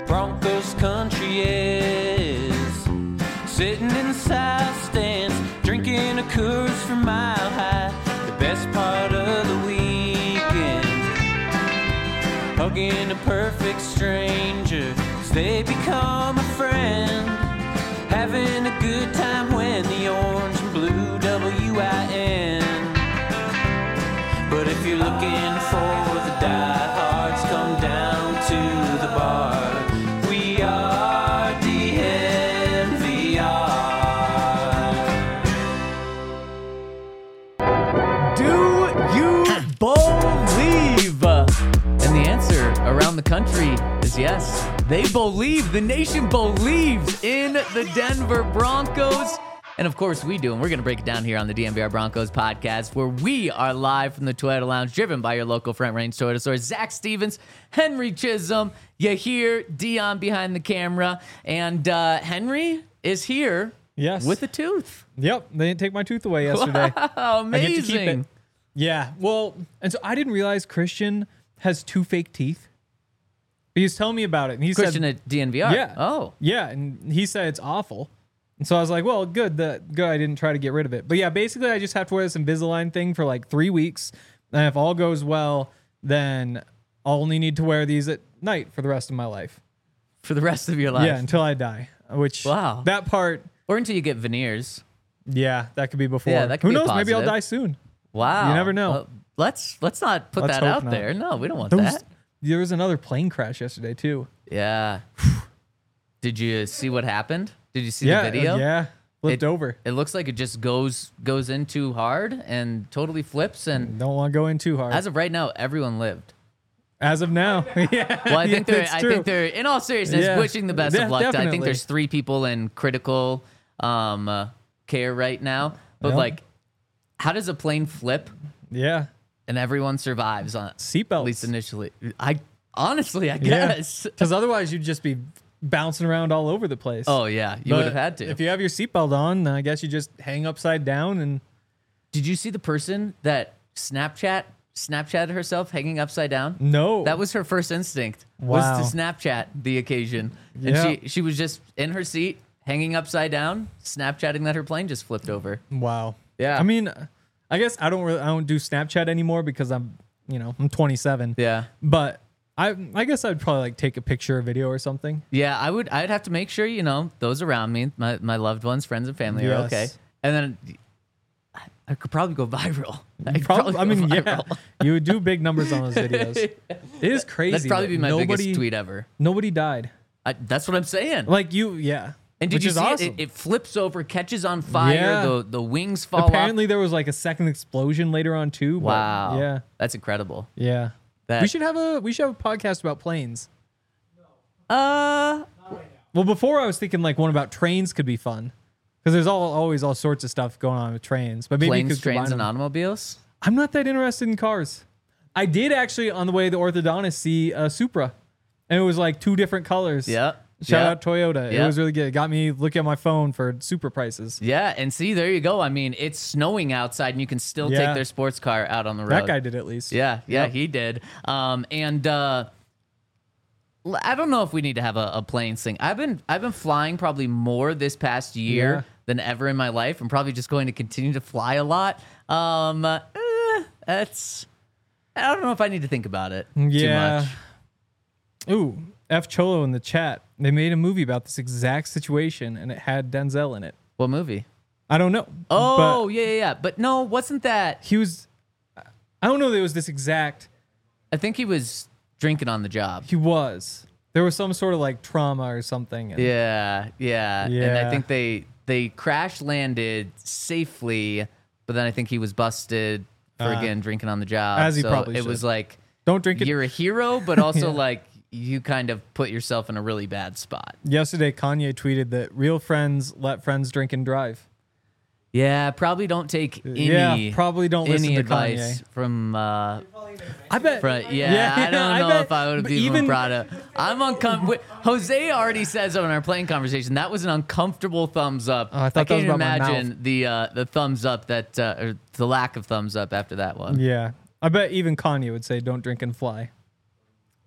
Broncos country is. Sitting in the south stands, drinking a Coors from Mile High. The best part of the weekend, hugging a perfect stranger, 'cause they become a friend. Having a good time when the orange and blue WIN. But if you're looking for the diehards, come down to the bar. We are DNVR. Do you believe? And the answer around the country is yes. They believe. The nation believes in the Denver Broncos. And of course we do, and we're going to break it down here on the DNVR Broncos podcast, where we are live from the Toyota Lounge, driven by your local Front Range Toyota store. Zach Stevens, Henry Chisholm, you hear Dion behind the camera, and Henry is here with a tooth. Yep, they didn't take my tooth away yesterday. Wow, amazing. I get to keep it. Yeah, well, and so I didn't realize Christian has 2 fake teeth. He was telling me about it, and he Christian said, at DNVR? Yeah. Oh. Yeah, and he said it's awful. And so I was like, well, good I didn't try to get rid of it. But yeah, basically I just have to wear this Invisalign thing for like 3 weeks. And if all goes well, then I'll only need to wear these at night for the rest of my life. For the rest of your life? Yeah, until I die. Which, wow. That part. Or until you get veneers. Yeah, that could be before. Yeah, that could Who be knows? positive. Maybe I'll die soon. Wow. You never know. Well, let's not put Let's that hope out not. there. No, we don't want that. There was another plane crash yesterday, too. Yeah. Did you see what happened? Did you see the video? Yeah, flipped over. It looks like it just goes in too hard and totally flips. And Don't want to go in too hard. as of right now, everyone lived. As of now, yeah. Well, I think that's true. they're in all seriousness Yeah. wishing the best Yeah, of luck. I definitely. think there's 3 people in critical care right now. But Yeah. like, how does a plane flip Yeah. and everyone survives on Seatbelts. At least initially. I Yeah. guess. Because otherwise you'd just be bouncing around all over the place. Oh yeah, you would have had to. If you have your seatbelt on, I guess you just hang upside down and. Did you see the person that Snapchatted herself hanging upside down? No. That was her first instinct. Wow. Was to Snapchat the occasion. Yeah. And she was just in her seat, hanging upside down, Snapchatting that her plane just flipped over. Wow. Yeah. I mean, I guess I don't do Snapchat anymore because I'm 27. Yeah. But I guess I'd probably like take a picture or video or something. Yeah, I'd have to make sure, those around me, my loved ones, friends and family are Yes. okay. And then I could probably go viral. You would do big numbers on those videos. It is crazy. That'd probably be my biggest tweet ever. Nobody died. That's what I'm saying. Like yeah. And did Which you is see awesome. it? It flips over, catches on fire. Yeah. The wings fall Apparently off. there was like a second explosion later on too. But Wow. Yeah. That's incredible. Yeah. That- We should have a podcast about planes. Uh, Well, before I was thinking like one about trains could be fun. Because there's always all sorts of stuff going on with trains. But maybe you planes, could combine trains, and them. automobiles. I'm not that interested in cars. I did actually on the way to the orthodontist see a Supra. And it was like 2 different colors. Yeah. Shout Yeah. out Toyota. Yeah. It was really good. It got me looking at my phone for Supra prices. Yeah, and see, there you go. I mean, it's snowing outside, and you can still Yeah. take their sports car out on the road. That guy did at least. Yeah, Yep. he did. And I don't know if we need to have a planes thing. I've been flying probably more this past year Yeah. than ever in my life. I'm probably just going to continue to fly a lot. That's I don't know if I need to think about it Yeah. too much. Ooh, F Cholo in the chat. They made a movie about this exact situation, and it had Denzel in it. What movie? I don't know. Oh, but yeah. But no, wasn't that? he was. I don't know that it was this exact. I think he was drinking on the job. He was. There was some sort of like trauma or something. And Yeah. And I Yeah. think they crash landed safely, but then I think he was busted for again drinking on the job. As he so probably it should. was like Don't drink it. you're a hero, but also Yeah. like you kind of put yourself in a really bad spot. Yesterday, Kanye tweeted that real friends let friends drink and drive. Yeah, probably don't take any. Yeah, probably don't listen any to advice Kanye. from. I bet. Yeah, I don't know bet. if I would But be even proud of. I'm uncomfortable. Jose already says in our plane conversation that was an uncomfortable thumbs up. Oh, I thought that can't was about my imagine the thumbs up that or the lack of thumbs up after that one. Yeah, I bet even Kanye would say, "Don't drink and fly."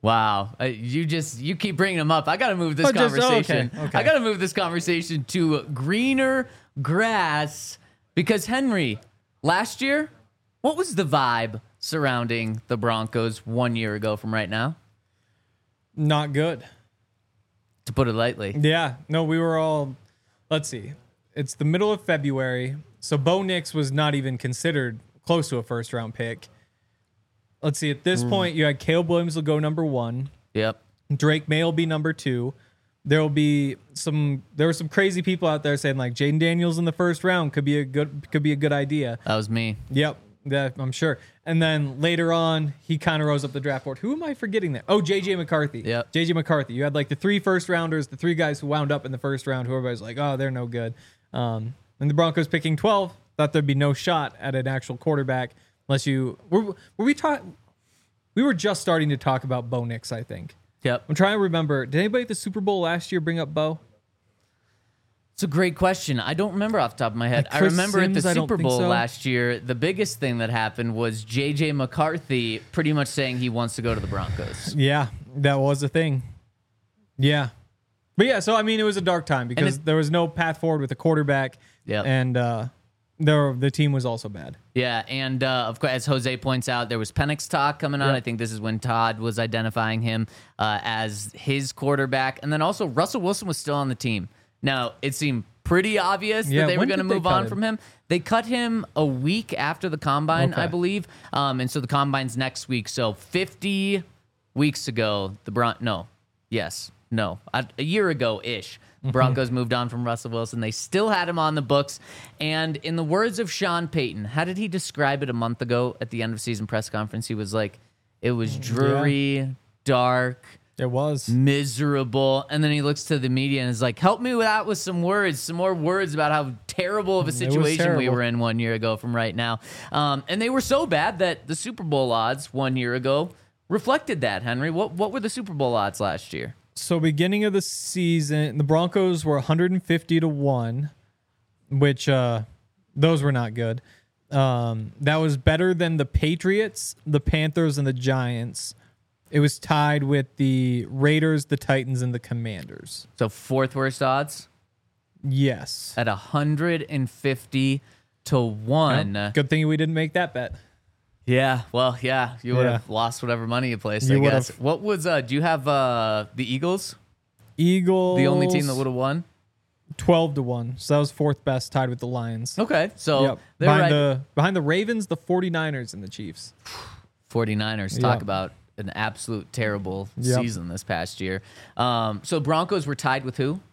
Wow. You keep bringing them up. I got to move this conversation. Okay. I got to move this conversation to greener grass because Henry, last year, what was the vibe surrounding the Broncos 1 year ago from right now? Not good. To put it lightly. Yeah. No, we were all, let's see. It's the middle of February. So Bo Nix was not even considered close to a first round pick. Let's see. At this point, you had Caleb Williams will go number 1. Yep. Drake May will be number 2. There were some crazy people out there saying like Jaden Daniels in the first round could be a good idea. That was me. Yep. That I'm sure. And then later on, he kind of rose up the draft board. Who am I forgetting there? Oh, JJ McCarthy. Yep. JJ McCarthy. You had like the 3 first rounders, the 3 guys who wound up in the first round, who everybody's like, oh, they're no good. And the Broncos picking 12, thought there'd be no shot at an actual quarterback unless you we were just starting to talk about Bo Nix, I think. Yep. I'm trying to remember. Did anybody at the Super Bowl last year bring up Bo? It's a great question. I don't remember off the top of my head. Like I Chris remember Sims, at the I don't Super think Bowl so. last year, the biggest thing that happened was J.J. McCarthy pretty much saying he wants to go to the Broncos. Yeah, that was a thing. Yeah. But yeah, so I mean, it was a dark time because there was no path forward with the quarterback. Yep. And the team was also bad. Yeah, and of course, as Jose points out, there was Penix talk coming on. Yep. I think this is when Todd was identifying him as his quarterback. And then also, Russell Wilson was still on the team. Now, it seemed pretty obvious that they were when going to did they move cut on him? from him. They cut him a week after the Combine, Okay. I believe. And so the Combine's next week. So 50 weeks ago, a year ago-ish, Broncos moved on from Russell Wilson. They still had him on the books. And in the words of Sean Payton, how did he describe it a month ago at the end of season press conference? He was like, it was dreary, dark, It was. miserable. And then he looks to the media and is like, help me with that with some more words about how terrible of a situation we terrible. were in 1 year ago from right now. And they were so bad that the Super Bowl odds 1 year ago reflected that, Henry. What were the Super Bowl odds last year? So beginning of the season, the Broncos were 150-1, which those were not good. That was better than the Patriots, the Panthers, and the Giants. It was tied with the Raiders, the Titans, and the Commanders. So fourth worst odds Yes. at 150-1. Well, good thing we didn't make that bet. Yeah, well, yeah, you would have lost whatever money you placed, I You guess. would've. What was, do you have the Eagles? Eagles. The only team that would have won? 12-1. So that was fourth best, tied with the Lions. Okay, so Yep. they're right. Behind the Ravens, the 49ers, and the Chiefs. 49ers, talk Yep. about an absolute terrible Yep. season this past year. So Broncos were tied with who?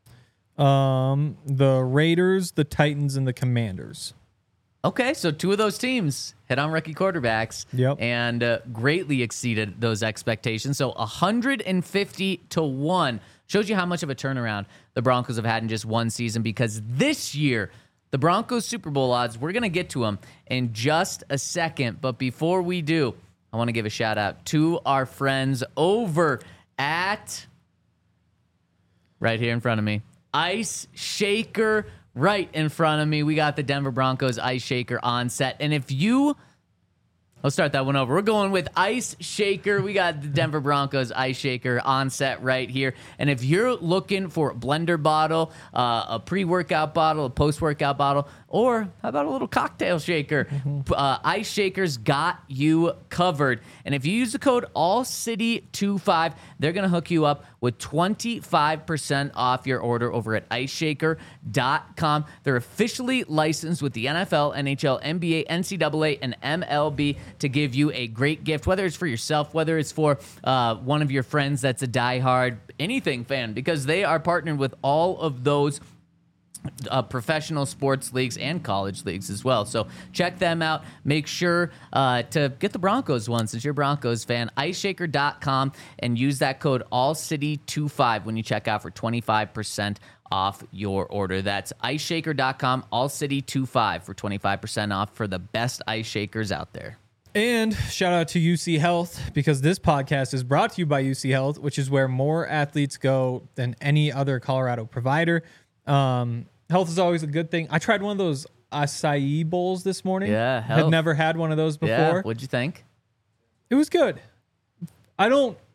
The Raiders, the Titans, and the Commanders. Okay, so 2 of those teams hit on rookie quarterbacks Yep. and greatly exceeded those expectations. So 150-1 shows you how much of a turnaround the Broncos have had in just one season, because this year, the Broncos Super Bowl odds, we're going to get to them in just a second. But before we do, I want to give a shout out to our friends over at, right here in front of me, Ice Shaker. Right in front of me, we got the Denver Broncos Ice Shaker on set. And if you, let's start that one over. We're going with Ice Shaker. We got the Denver Broncos Ice Shaker on set right here. And if you're looking for a blender bottle, a pre-workout bottle, a post-workout bottle, or how about a little cocktail shaker, Ice Shaker's got you covered. And if you use the code ALLCITY25, they're going to hook you up with 25% off your order over at iceshaker.com. They're officially licensed with the NFL, NHL, NBA, NCAA, and MLB to give you a great gift, whether it's for yourself, whether it's for one of your friends that's a diehard anything fan, because they are partnered with all of those professional sports leagues and college leagues as well. So check them out. Make sure to get the Broncos one since you're a Broncos fan. IceShaker.com and use that code AllCity25 when you check out for 25% off your order. That's IceShaker.com, AllCity25 for 25% off for the best ice shakers out there. And shout out to UC Health, because this podcast is brought to you by UC Health, which is where more athletes go than any other Colorado provider. Health is always a good thing. I tried one of those acai bowls this morning. Yeah, had never had one of those before. Yeah, what'd you think? It was good. I don't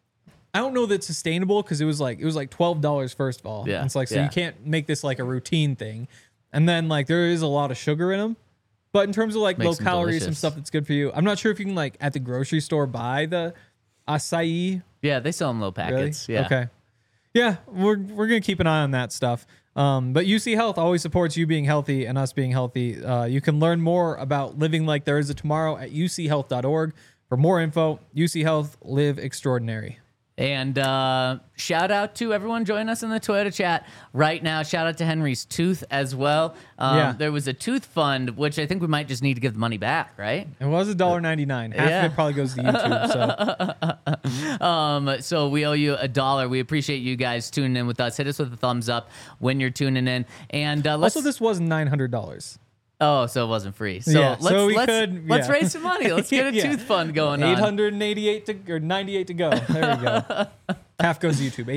I don't know that's sustainable because it was like $12 first of all. Yeah, And it's like, so yeah. you can't make this like a routine thing. And then like there is a lot of sugar in them. But in terms of like Makes low them calories, some delicious. stuff that's good for you. I'm not sure if you can like at the grocery store buy the acai. Yeah, they sell them little Really? packets. Yeah. Okay. Yeah, we're gonna keep an eye on that stuff. But UC Health always supports you being healthy and us being healthy. You can learn more about living like there is a tomorrow at uchealth.org. For more info, UC Health, live extraordinary. And shout out to everyone joining us in the Toyota chat right now. Shout out to Henry's Tooth as well. Yeah. There was a tooth fund, which I think we might just need to give the money back, right? It was $1.99. Half Yeah. of it probably goes to YouTube. So So we owe you $1. We appreciate you guys tuning in with us. Hit us with a thumbs up when you're tuning in. And let's. also, this was $900. Oh, so it wasn't free. So Yeah, let's so we let's, could- let's yeah. raise some money. Let's get a Yeah. tooth fund going on. 898 to or 98 to go. There we go. Half goes to YouTube.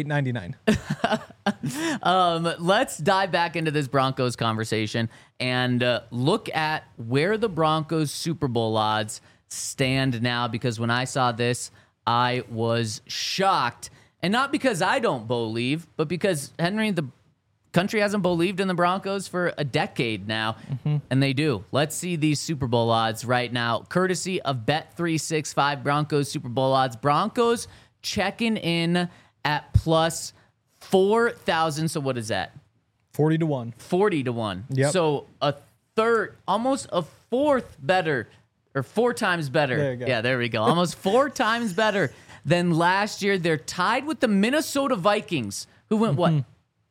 $8.99. Let's dive back into this Broncos conversation and look at where the Broncos Super Bowl odds stand now, because when I saw this, I was shocked. And not because I don't believe, but because, Henry, the country hasn't believed in the Broncos for a decade now, and they do. Let's see these Super Bowl odds right now, courtesy of Bet365 Broncos Super Bowl odds. Broncos checking in at plus 4,000. So what is that? 40 to 1. 40 to 1. Yep. So a third, almost a fourth better, or 4 times better. There you go. Yeah, there we go. Almost 4 times better than last year. They're tied with the Minnesota Vikings, who went what?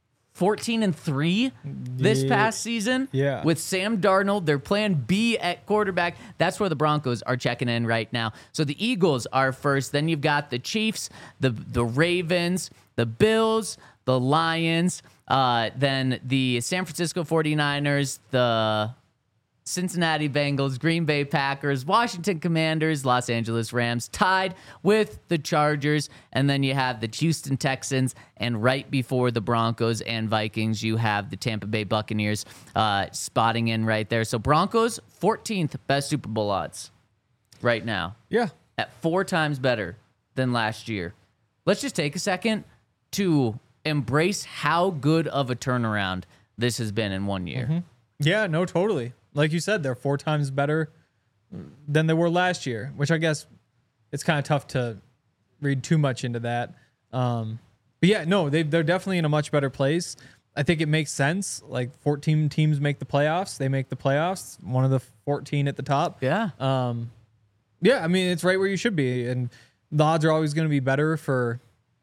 14-3 this Yeah. past season. Yeah. With Sam Darnold, their plan B at quarterback. That's where the Broncos are checking in right now. So the Eagles are first. Then you've got the Chiefs, the Ravens, the Bills, the Lions, then the San Francisco 49ers, the Cincinnati Bengals, Green Bay Packers, Washington Commanders, Los Angeles Rams, tied with the Chargers. And then you have the Houston Texans. And right before the Broncos and Vikings, you have the Tampa Bay Buccaneers spotting in right there. So Broncos, 14th best Super Bowl odds right now, Yeah. at 4 times better than last year. Let's just take a second to embrace how good of a turnaround this has been in 1 year. Yeah, no, totally. Like you said, they're 4 times better than they were last year, which I guess it's kind of tough to read too much into that. But yeah, no, they're definitely in a much better place. I think it makes sense. Like 14 teams make the playoffs. They make the playoffs. One of the 14 at the top. Yeah. Yeah, I mean, it's right where you should be. And the odds are always going to be better for...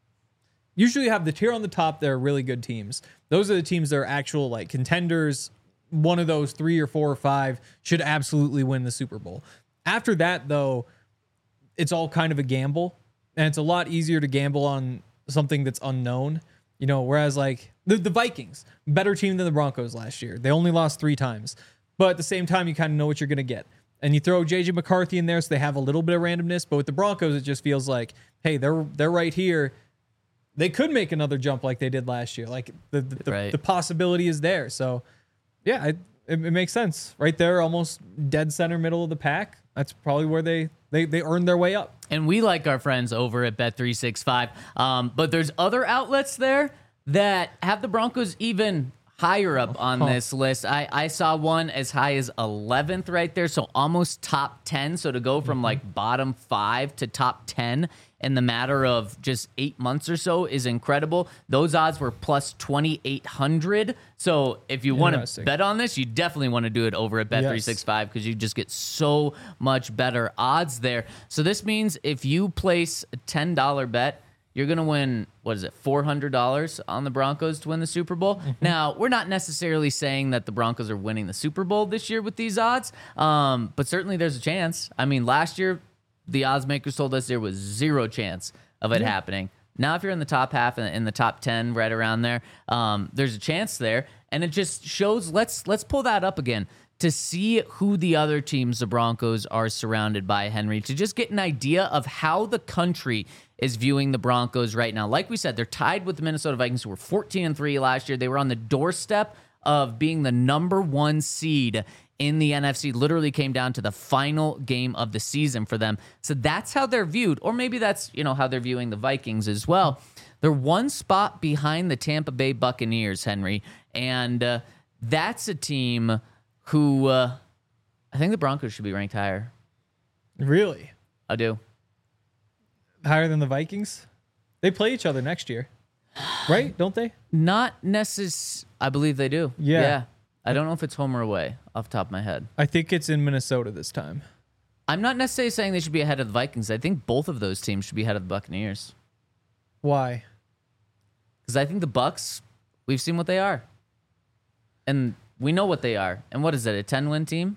Usually you have the tier on the top, they're really good teams. Those are the teams that are actual like contenders. One of those 3 or 4 or 5 should absolutely win the Super Bowl. After that, though, it's all kind of a gamble. And it's a lot easier to gamble on something that's unknown. You know, whereas like the Vikings, better team than the Broncos last year. They only lost 3 times. But at the same time, you kind of know what you're going to get. And you throw J.J. McCarthy in there, so they have a little bit of randomness. But with the Broncos, it just feels like, hey, they're right here. They could make another jump like they did last year. Like Right. the possibility is there. So, yeah, it makes sense. Right there, almost dead center middle of the pack. That's probably where they earned their way up. And we like our friends over at Bet365. But there's other outlets there that have the Broncos even higher up on this list. I saw one as high as 11th right there, so almost top 10. So to go from like bottom 5 to top 10 in the matter of just 8 months or so is incredible. Those odds were plus 2,800. So if you want to Interesting. bet on this, you definitely want to do it over at Bet365 because you just get so much better odds there. So this means if you place a $10 bet, you're going to win, what is it, $400 on the Broncos to win the Super Bowl. Now, we're not necessarily saying that the Broncos are winning the Super Bowl this year with these odds, but certainly there's a chance. I mean, last year, the odds makers told us there was 0 chance of it happening. Now, if you're in the top half and in the top 10, right around there, there's a chance there. And it just shows, let's pull that up again to see who the other teams the Broncos are surrounded by, Henry, to just get an idea of how the country is viewing the Broncos right now. Like we said, they're tied with the Minnesota Vikings, who were 14-3 last year. They were on the doorstep of being the number 1 seed in the NFC literally came down to the final game of the season for them. So that's how they're viewed, or maybe that's, how they're viewing the Vikings as well. They're one spot behind the Tampa Bay Buccaneers, Henry, and that's a team who I think the Broncos should be ranked higher. Really? I do. Higher than the Vikings? They play each other next year, right? Don't they? Not necessarily. I believe they do. Yeah. I don't know if it's home or away off the top of my head. I think it's in Minnesota this time. I'm not necessarily saying they should be ahead of the Vikings. I think both of those teams should be ahead of the Buccaneers. Why? Because I think the Bucs, we've seen what they are. And we know what they are. And what is it, a 10-win team?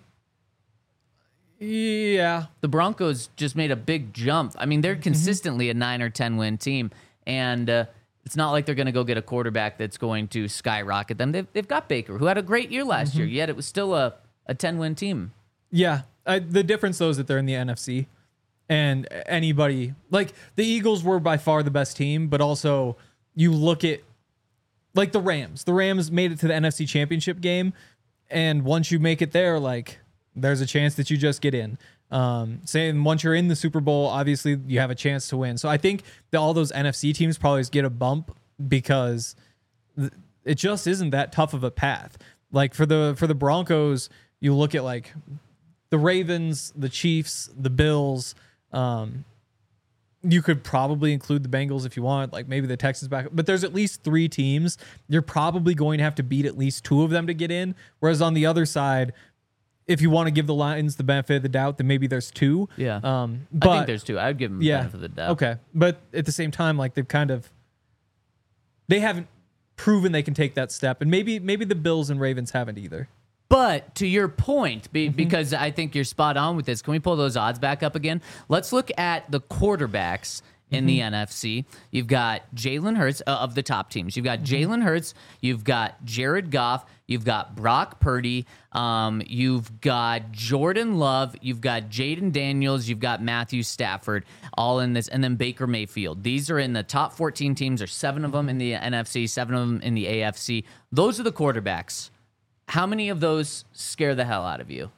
Yeah. The Broncos just made a big jump. I mean, they're consistently a 9 or 10-win team. And it's not like they're going to go get a quarterback that's going to skyrocket them. They've got Baker, who had a great year last year, yet it was still a 10-win team. Yeah. The difference, though, is that they're in the NFC. And anybody, like the Eagles were by far the best team, but also you look at like the Rams. The Rams made it to the NFC Championship game. And once you make it there, like there's a chance that you just get in. Saying once you're in the Super Bowl, obviously you have a chance to win. So I think that all those NFC teams probably get a bump because it just isn't that tough of a path. Like for the Broncos, you look at like the Ravens, the Chiefs, the Bills. You could probably include the Bengals if you want, like maybe the Texans back, but there's at least 3 teams. You're probably going to have to beat at least 2 of them to get in. Whereas on the other side, if you want to give the Lions the benefit of the doubt, then maybe there's 2. Yeah. But I think there's 2. I would give them the benefit of the doubt. Okay. But at the same time, like they haven't proven they can take that step. And maybe the Bills and Ravens haven't either. But to your point, because I think you're spot on with this, can we pull those odds back up again? Let's look at the quarterbacks in the NFC. You've got Jalen Hurts of the top teams. You've got Jalen Hurts. You've got Jared Goff. You've got Brock Purdy. You've got Jordan Love. You've got Jaden Daniels. You've got Matthew Stafford, all in this, and then Baker Mayfield. These are in the top 14 teams. There's 7 of them in the NFC, 7 of them in the AFC. Those are the quarterbacks. How many of those scare the hell out of you?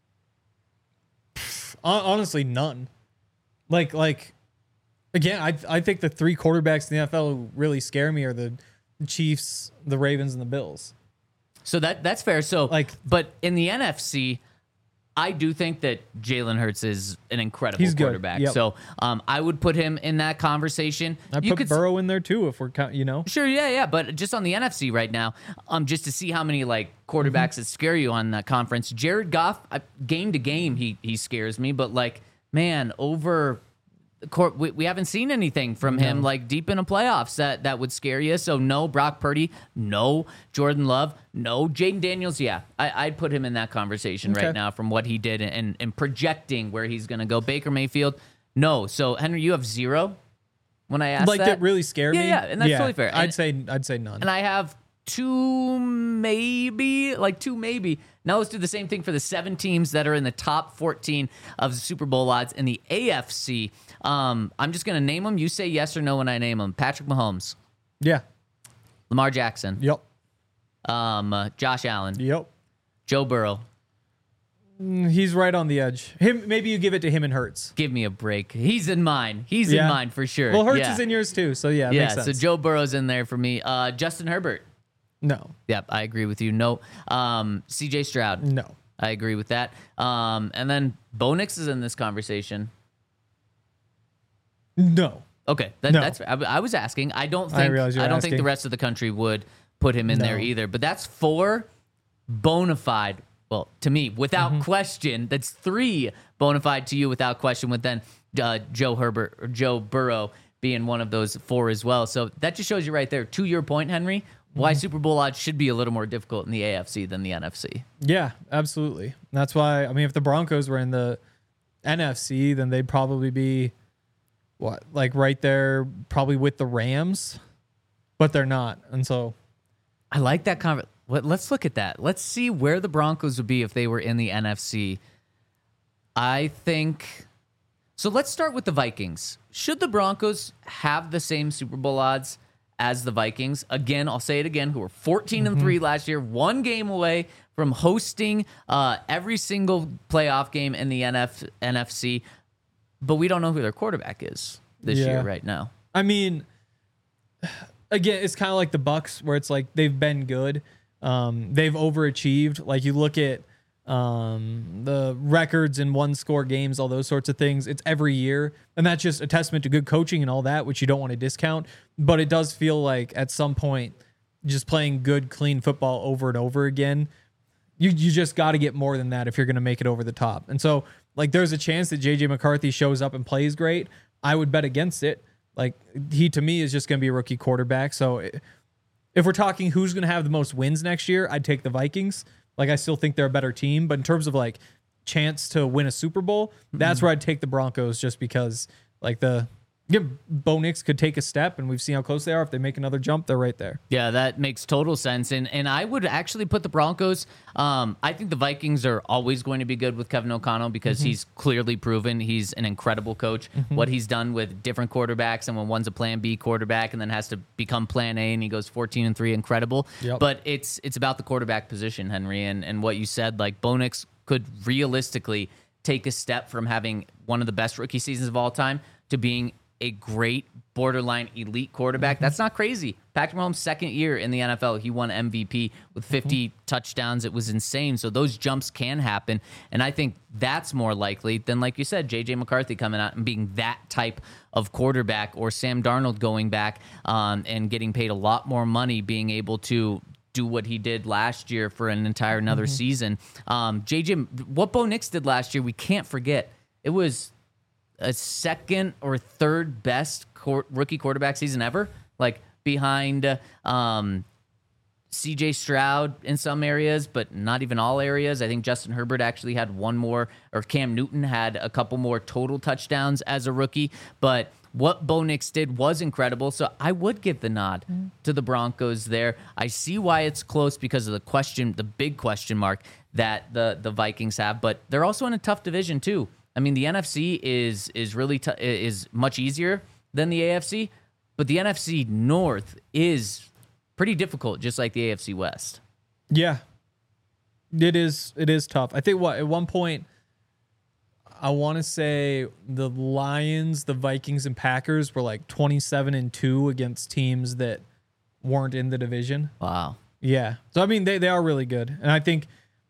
Honestly, none. Like again, I think the 3 quarterbacks in the NFL who really scare me are the Chiefs, the Ravens, and the Bills. So that's fair. So but in the NFC, I do think that Jalen Hurts is an incredible quarterback. Yep. So I would put him in that conversation. I put Burrow in there too, if we're Sure, yeah. But just on the NFC right now, just to see how many like quarterbacks that scare you on that conference. Jared Goff, game to game, he scares me. But like, man, over court, we haven't seen anything from him like deep in the playoffs that would scare you. So no Brock Purdy, no Jordan Love, no Jaden Daniels. Yeah, I'd put him in that conversation right now from what he did and projecting where he's going to go. Baker Mayfield, no. So Henry, you have 0 when I asked that really scared me. Yeah, and that's totally fair. I'd say none. And I have 2 maybe. Now let's do the same thing for the 7 teams that are in the top 14 of the Super Bowl odds in the AFC. I'm just going to name them. You say yes or no when I name them. Patrick Mahomes. Yeah. Lamar Jackson. Yep. Josh Allen. Yep. Joe Burrow. He's right on the edge. Maybe you give it to him and Hurts. Give me a break. He's in mine. He's in mine for sure. Well, Hurts is in yours too, so yeah, makes sense. So Joe Burrow's in there for me. Justin Herbert. No. Yep, I agree with you. No. CJ Stroud. No. I agree with that. And then Bo Nix is in this conversation. No. Okay, No. that's fair. I was asking. I don't think the rest of the country would put him in there either. But that's 4 bona fide. Well, to me, without question, that's 3 bona fide to you without question. With then Joe Burrow being one of those 4 as well. So that just shows you right there. To your point, Henry, why Super Bowl odds should be a little more difficult in the AFC than the NFC. Yeah, absolutely. That's why. I mean, if the Broncos were in the NFC, then they'd probably be right there, probably with the Rams, but they're not, and so I like that let's look at that. Let's see where the Broncos would be if they were in the NFC. I think so. Let's start with the Vikings. Should the Broncos have the same Super Bowl odds as the Vikings. Again, I'll say it again, who were 14-3 last year, 1 game away from hosting every single playoff game in the NFC. But we don't know who their quarterback is this year right now. I mean, again, it's kind of like the Bucs, where it's like they've been good. They've overachieved. Like you look at the records in 1-score games, all those sorts of things. It's every year. And that's just a testament to good coaching and all that, which you don't want to discount. But it does feel like at some point, just playing good, clean football over and over again, you just got to get more than that if you're going to make it over the top. And so, like, there's a chance that J.J. McCarthy shows up and plays great. I would bet against it. Like, he, to me, is just going to be a rookie quarterback. So if we're talking who's going to have the most wins next year, I'd take the Vikings. Like, I still think they're a better team. But in terms of, like, chance to win a Super Bowl, that's where I'd take the Broncos, just because, like, Bo Nix could take a step, and we've seen how close they are. If they make another jump, they're right there. Yeah, that makes total sense. And I would actually put the Broncos. I think the Vikings are always going to be good with Kevin O'Connell because he's clearly proven he's an incredible coach. What he's done with different quarterbacks, and when one's a plan B quarterback and then has to become plan A and he goes 14-3, incredible. Yep. But it's about the quarterback position, Henry, and what you said, like Bo Nix could realistically take a step from having one of the best rookie seasons of all time to being a great borderline elite quarterback. That's not crazy. Patrick Mahomes' second year in the NFL, he won MVP with 50 touchdowns. It was insane. So those jumps can happen. And I think that's more likely than, like you said, J.J. McCarthy coming out and being that type of quarterback, or Sam Darnold going back and getting paid a lot more money, being able to do what he did last year for an entire another season. What Bo Nix did last year, we can't forget. It was a second or third best rookie quarterback season ever, like behind C.J. Stroud in some areas, but not even all areas. I think Justin Herbert actually had one more, or Cam Newton had a couple more total touchdowns as a rookie. But what Bo Nix did was incredible, so I would give the nod to the Broncos there. I see why it's close because of the big question mark that the Vikings have, but they're also in a tough division too. I mean, the NFC is really is much easier than the AFC, but the NFC North is pretty difficult, just like the AFC West. Yeah, it is. It is tough. I think at one point, I want to say the Lions, the Vikings, and Packers were like 27-2 against teams that weren't in the division. Wow. Yeah. So I mean, they are really good, and I think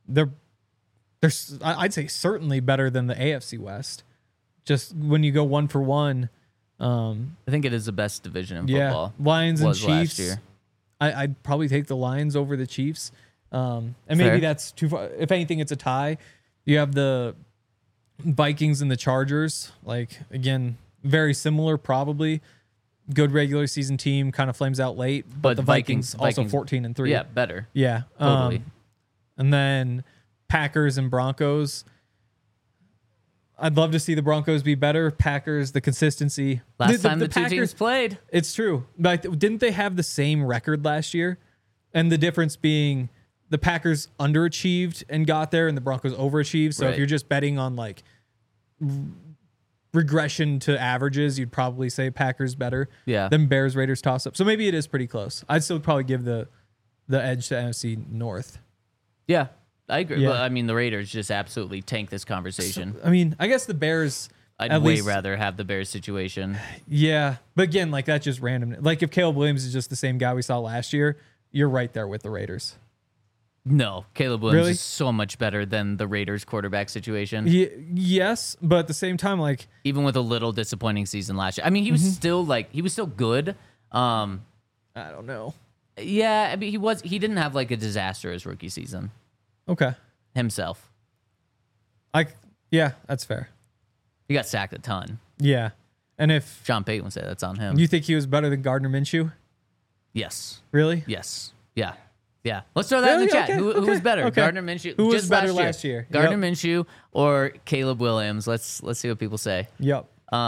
I'd say certainly better than the AFC West. Just when you go one for one, I think it is the best division in football. Yeah, Lions and Chiefs. Last year. I'd probably take the Lions over the Chiefs, and maybe Fair. that's too far. If anything, it's a tie. You have the Vikings and the Chargers. Like, again, very similar, probably. Good regular season team, kind of flames out late, but the Vikings also 14-3. Yeah, better. Yeah, Totally. And then Packers and Broncos. I'd love to see the Broncos be better. Packers, the consistency. Last time the two teams played. It's true. But didn't they have the same record last year? And the difference being the Packers underachieved and got there, and the Broncos overachieved. So if you're just betting on like regression to averages, you'd probably say Packers better than Bears, Raiders toss up. So maybe it is pretty close. I'd still probably give the edge to NFC North. Yeah. I agree. Yeah. But, I mean, the Raiders just absolutely tank this conversation. So, I mean, I guess the Bears. I'd way rather have the Bears situation. Yeah. But again, like, that's just random. Like, if Caleb Williams is just the same guy we saw last year, you're right there with the Raiders. No, Caleb Williams is so much better than the Raiders quarterback situation. Yes, but at the same time, like, even with a little disappointing season last year. I mean, he was still good. I don't know. Yeah, I mean, he didn't have like a disastrous rookie season. Okay. Himself. Yeah, that's fair. He got sacked a ton. Yeah. And if Sean Payton would say that's on him. You think he was better than Gardner Minshew? Yes. Really? Yes. Yeah. Yeah. Let's throw that in the chat. Okay. Who was better? Okay. Gardner Minshew. Who was just better last year? Gardner Minshew or Caleb Williams? Let's see what people say. Yep.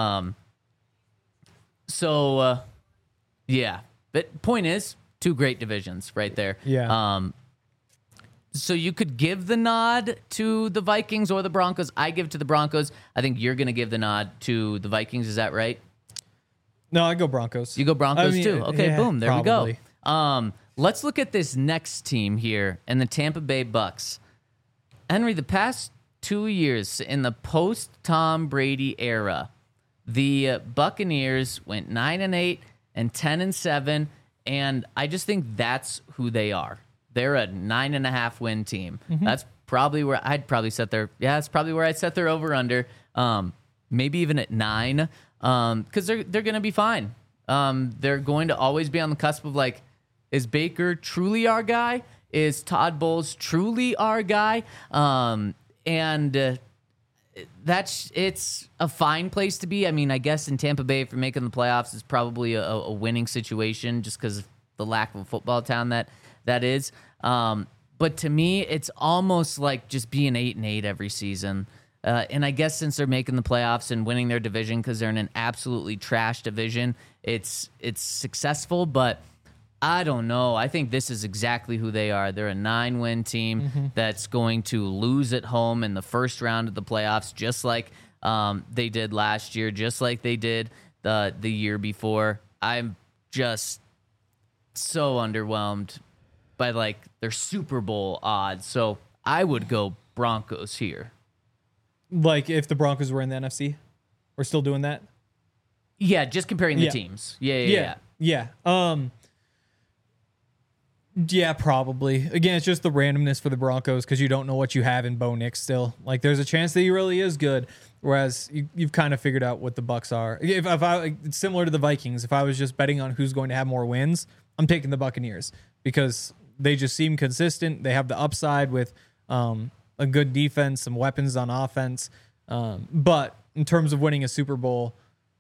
So yeah. But point is, two great divisions right there. Yeah. So you could give the nod to the Vikings or the Broncos. I give to the Broncos. I think you're going to give the nod to the Vikings. Is that right? No, I go Broncos. You go Broncos too. Okay, yeah, boom. There probably. we go. Let's look at this next team here and the Tampa Bay Bucks. Henry, the past 2 years in the post-Tom Brady era, the Buccaneers went 9-8 and 10-7, and I just think that's who they are. They're a 9.5 win team. That's probably where I'd probably set their. Yeah, that's probably where I'd set their over/under. Maybe even at 9, because they're going to be fine. They're going to always be on the cusp of like, is Baker truly our guy? Is Todd Bowles truly our guy? It's a fine place to be. I mean, I guess in Tampa Bay for making the playoffs is probably a winning situation just because of the lack of a football town that is. But to me, it's almost like just being 8-8 every season. And I guess since they're making the playoffs and winning their division because they're in an absolutely trash division, it's successful. But I don't know. I think this is exactly who they are. They're a 9-win team that's going to lose at home in the first round of the playoffs, just like they did last year, just like they did the year before. I'm just so underwhelmed by like their Super Bowl odds. So I would go Broncos here. Like if the Broncos were in the NFC, we're still doing that. Yeah, just comparing the teams. Yeah. Yeah, probably. Again, it's just the randomness for the Broncos because you don't know what you have in Bo Nix still. Like, there's a chance that he really is good, whereas you've kind of figured out what the Bucks are. If it's similar to the Vikings. If I was just betting on who's going to have more wins, I'm taking the Buccaneers because they just seem consistent. They have the upside with a good defense, some weapons on offense. But in terms of winning a Super Bowl,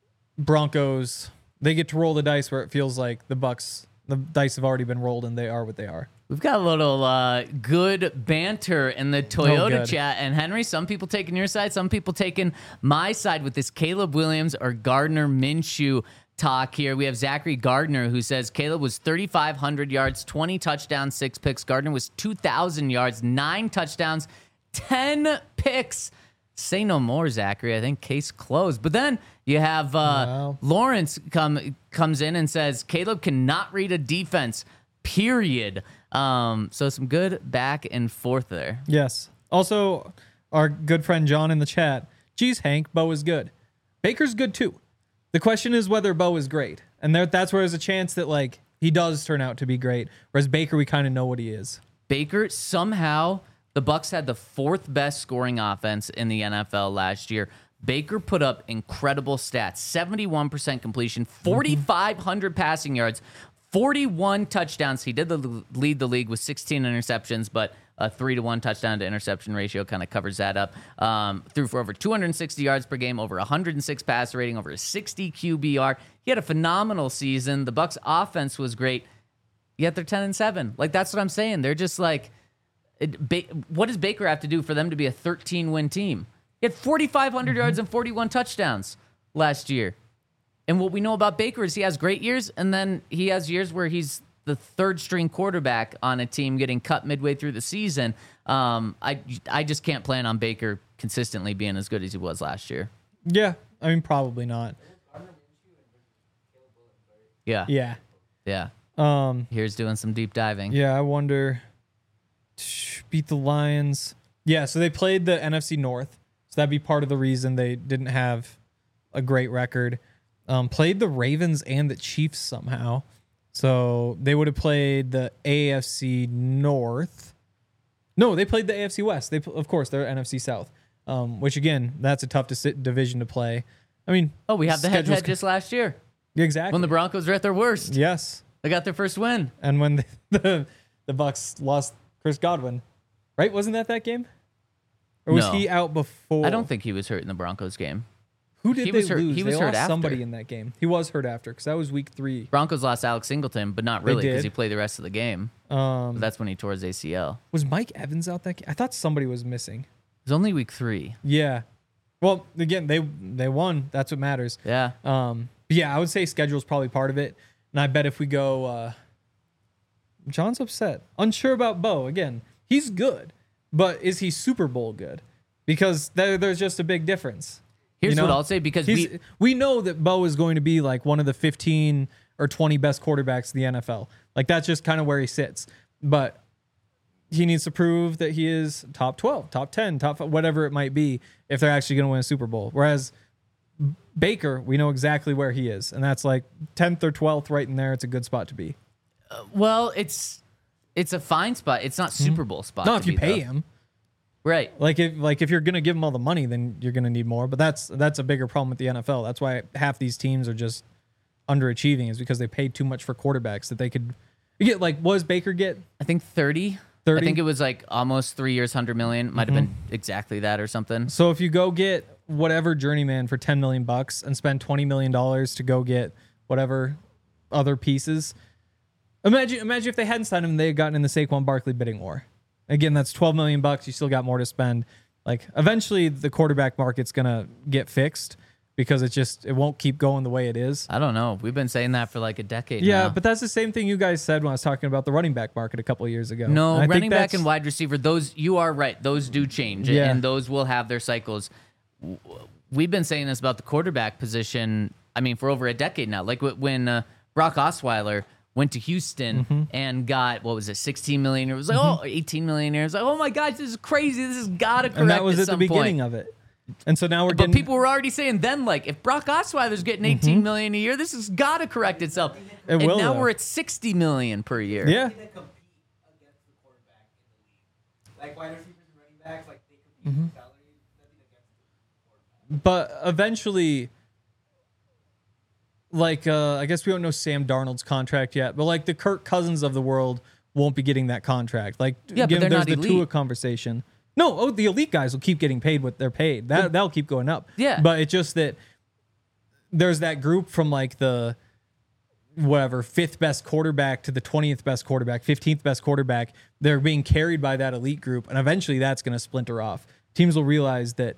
Broncos, they get to roll the dice where it feels like the Bucks. The dice have already been rolled, and they are what they are. We've got a little good banter in the Toyota chat. And Henry, some people taking your side, some people taking my side with this Caleb Williams or Gardner Minshew talk here. We have Zachary Gardner who says Caleb was 3,500 yards, 20 touchdowns, 6 picks. Gardner was 2,000 yards, 9 touchdowns, 10 picks. Say no more, Zachary. I think case closed. But then you have Lawrence comes in and says Caleb cannot read a defense, period. So some good back and forth there. Yes. Also, our good friend John in the chat. Geez, Hank, Bo is good. Baker's good too. The question is whether Bo is great. And that's where there's a chance that like he does turn out to be great. Whereas Baker, we kind of know what he is. Baker, somehow the Bucks had the 4th best scoring offense in the NFL last year. Baker put up incredible stats, 71% completion, 4,500 passing yards, 41 touchdowns. He did lead the league with 16 interceptions, but a 3-to-1 touchdown to interception ratio kind of covers that up. Threw for over 260 yards per game, over 106 passer rating, over a 60 QBR. He had a phenomenal season. The Bucks offense was great, yet they're 10-7. Like, that's what I'm saying. They're just like, what does Baker have to do for them to be a 13-win team? He had 4,500 yards and 41 touchdowns last year. And what we know about Baker is he has great years, and then he has years where he's the 3rd-string quarterback on a team getting cut midway through the season. I just can't plan on Baker consistently being as good as he was last year. Yeah, I mean, probably not. Yeah. Here's doing some deep diving. Yeah, I wonder. Beat the Lions. Yeah, so they played the NFC North. So that'd be part of the reason they didn't have a great record. Played the Ravens and the Chiefs somehow. So they would have played the AFC North. No, they played the AFC West. Of course, they're NFC South. Which, again, that's a tough division to play. I mean... Oh, we have the head-to-head just last year. Exactly. When the Broncos were at their worst. Yes. They got their first win. And when the Bucks lost Chris Godwin. Right? Wasn't that game? Or was he out before? I don't think he was hurt in the Broncos game. Who did they lose? He was they hurt lost after. Somebody in that game. He was hurt after because that was week 3. Broncos lost Alex Singleton, but not really because he played the rest of the game. But that's when he tore his ACL. Was Mike Evans out that game? I thought somebody was missing. It was only week 3. Yeah. Well, again, they won. That's what matters. Yeah. Yeah, I would say schedule is probably part of it. And I bet if we go, John's upset, unsure about Bo. Again, he's good, but is he Super Bowl good? Because there's just a big difference. Here's what I'll say, because we know that Bo is going to be like one of the 15 or 20 best quarterbacks in the NFL. Like that's just kind of where he sits. But he needs to prove that he is top 12, top 10, top 5, whatever it might be, if they're actually going to win a Super Bowl. Whereas Baker, we know exactly where he is, and that's like 10th or 12th right in there. It's a good spot to be. Well, it's a fine spot. It's not Super Bowl spot. Not if you pay him. Right. Like if you're going to give him all the money, then you're going to need more. But that's a bigger problem with the NFL. That's why half these teams are just underachieving, is because they paid too much for quarterbacks that they could get. Like, what does Baker get? I think 30. 30? I think it was like almost 3 years, 100 million. Might have been exactly that or something. So if you go get whatever journeyman for $10 million and spend $20 million to go get whatever other pieces, imagine if they hadn't signed him, they had gotten in the Saquon Barkley bidding war. Again, that's $12 million. You still got more to spend. Like, eventually the quarterback market's gonna get fixed, because it won't keep going the way it is. I don't know. We've been saying that for like a decade Yeah, now. but that's the same thing you guys said when I was talking about the running back market a couple of years ago. No, And I running think back and wide receiver, those, you are right. Those do change, Yeah. and those will have their cycles. We've been saying this about the quarterback position, I mean, for over a decade now. Like when Brock Osweiler went to Houston and got, what was it, 16 million? It was like, 18 million. It was like, oh my gosh, this is crazy. This has got to correct. And that was at at the some beginning point. of it. And so now we're But getting... people were already saying then, like, if Brock Osweiler's getting 18 million a year, this has got to correct itself. It and will, now though. we're at 60 million per year. Yeah. They compete against the quarterback in the league. Like wide receivers and running backs, like they compete for salary, nothing against the quarterback. But eventually, like, I guess we don't know Sam Darnold's contract yet, but like the Kirk Cousins of the world won't be getting that contract. Like, Yeah, but again, they're there's not the elite. Tua conversation. No, the elite guys will keep getting paid what they're paid. That'll keep going up. Yeah. But it's just that there's that group from like the whatever 5th best quarterback to the 20th best quarterback, 15th best quarterback. They're being carried by that elite group, and eventually that's going to splinter off. Teams will realize that,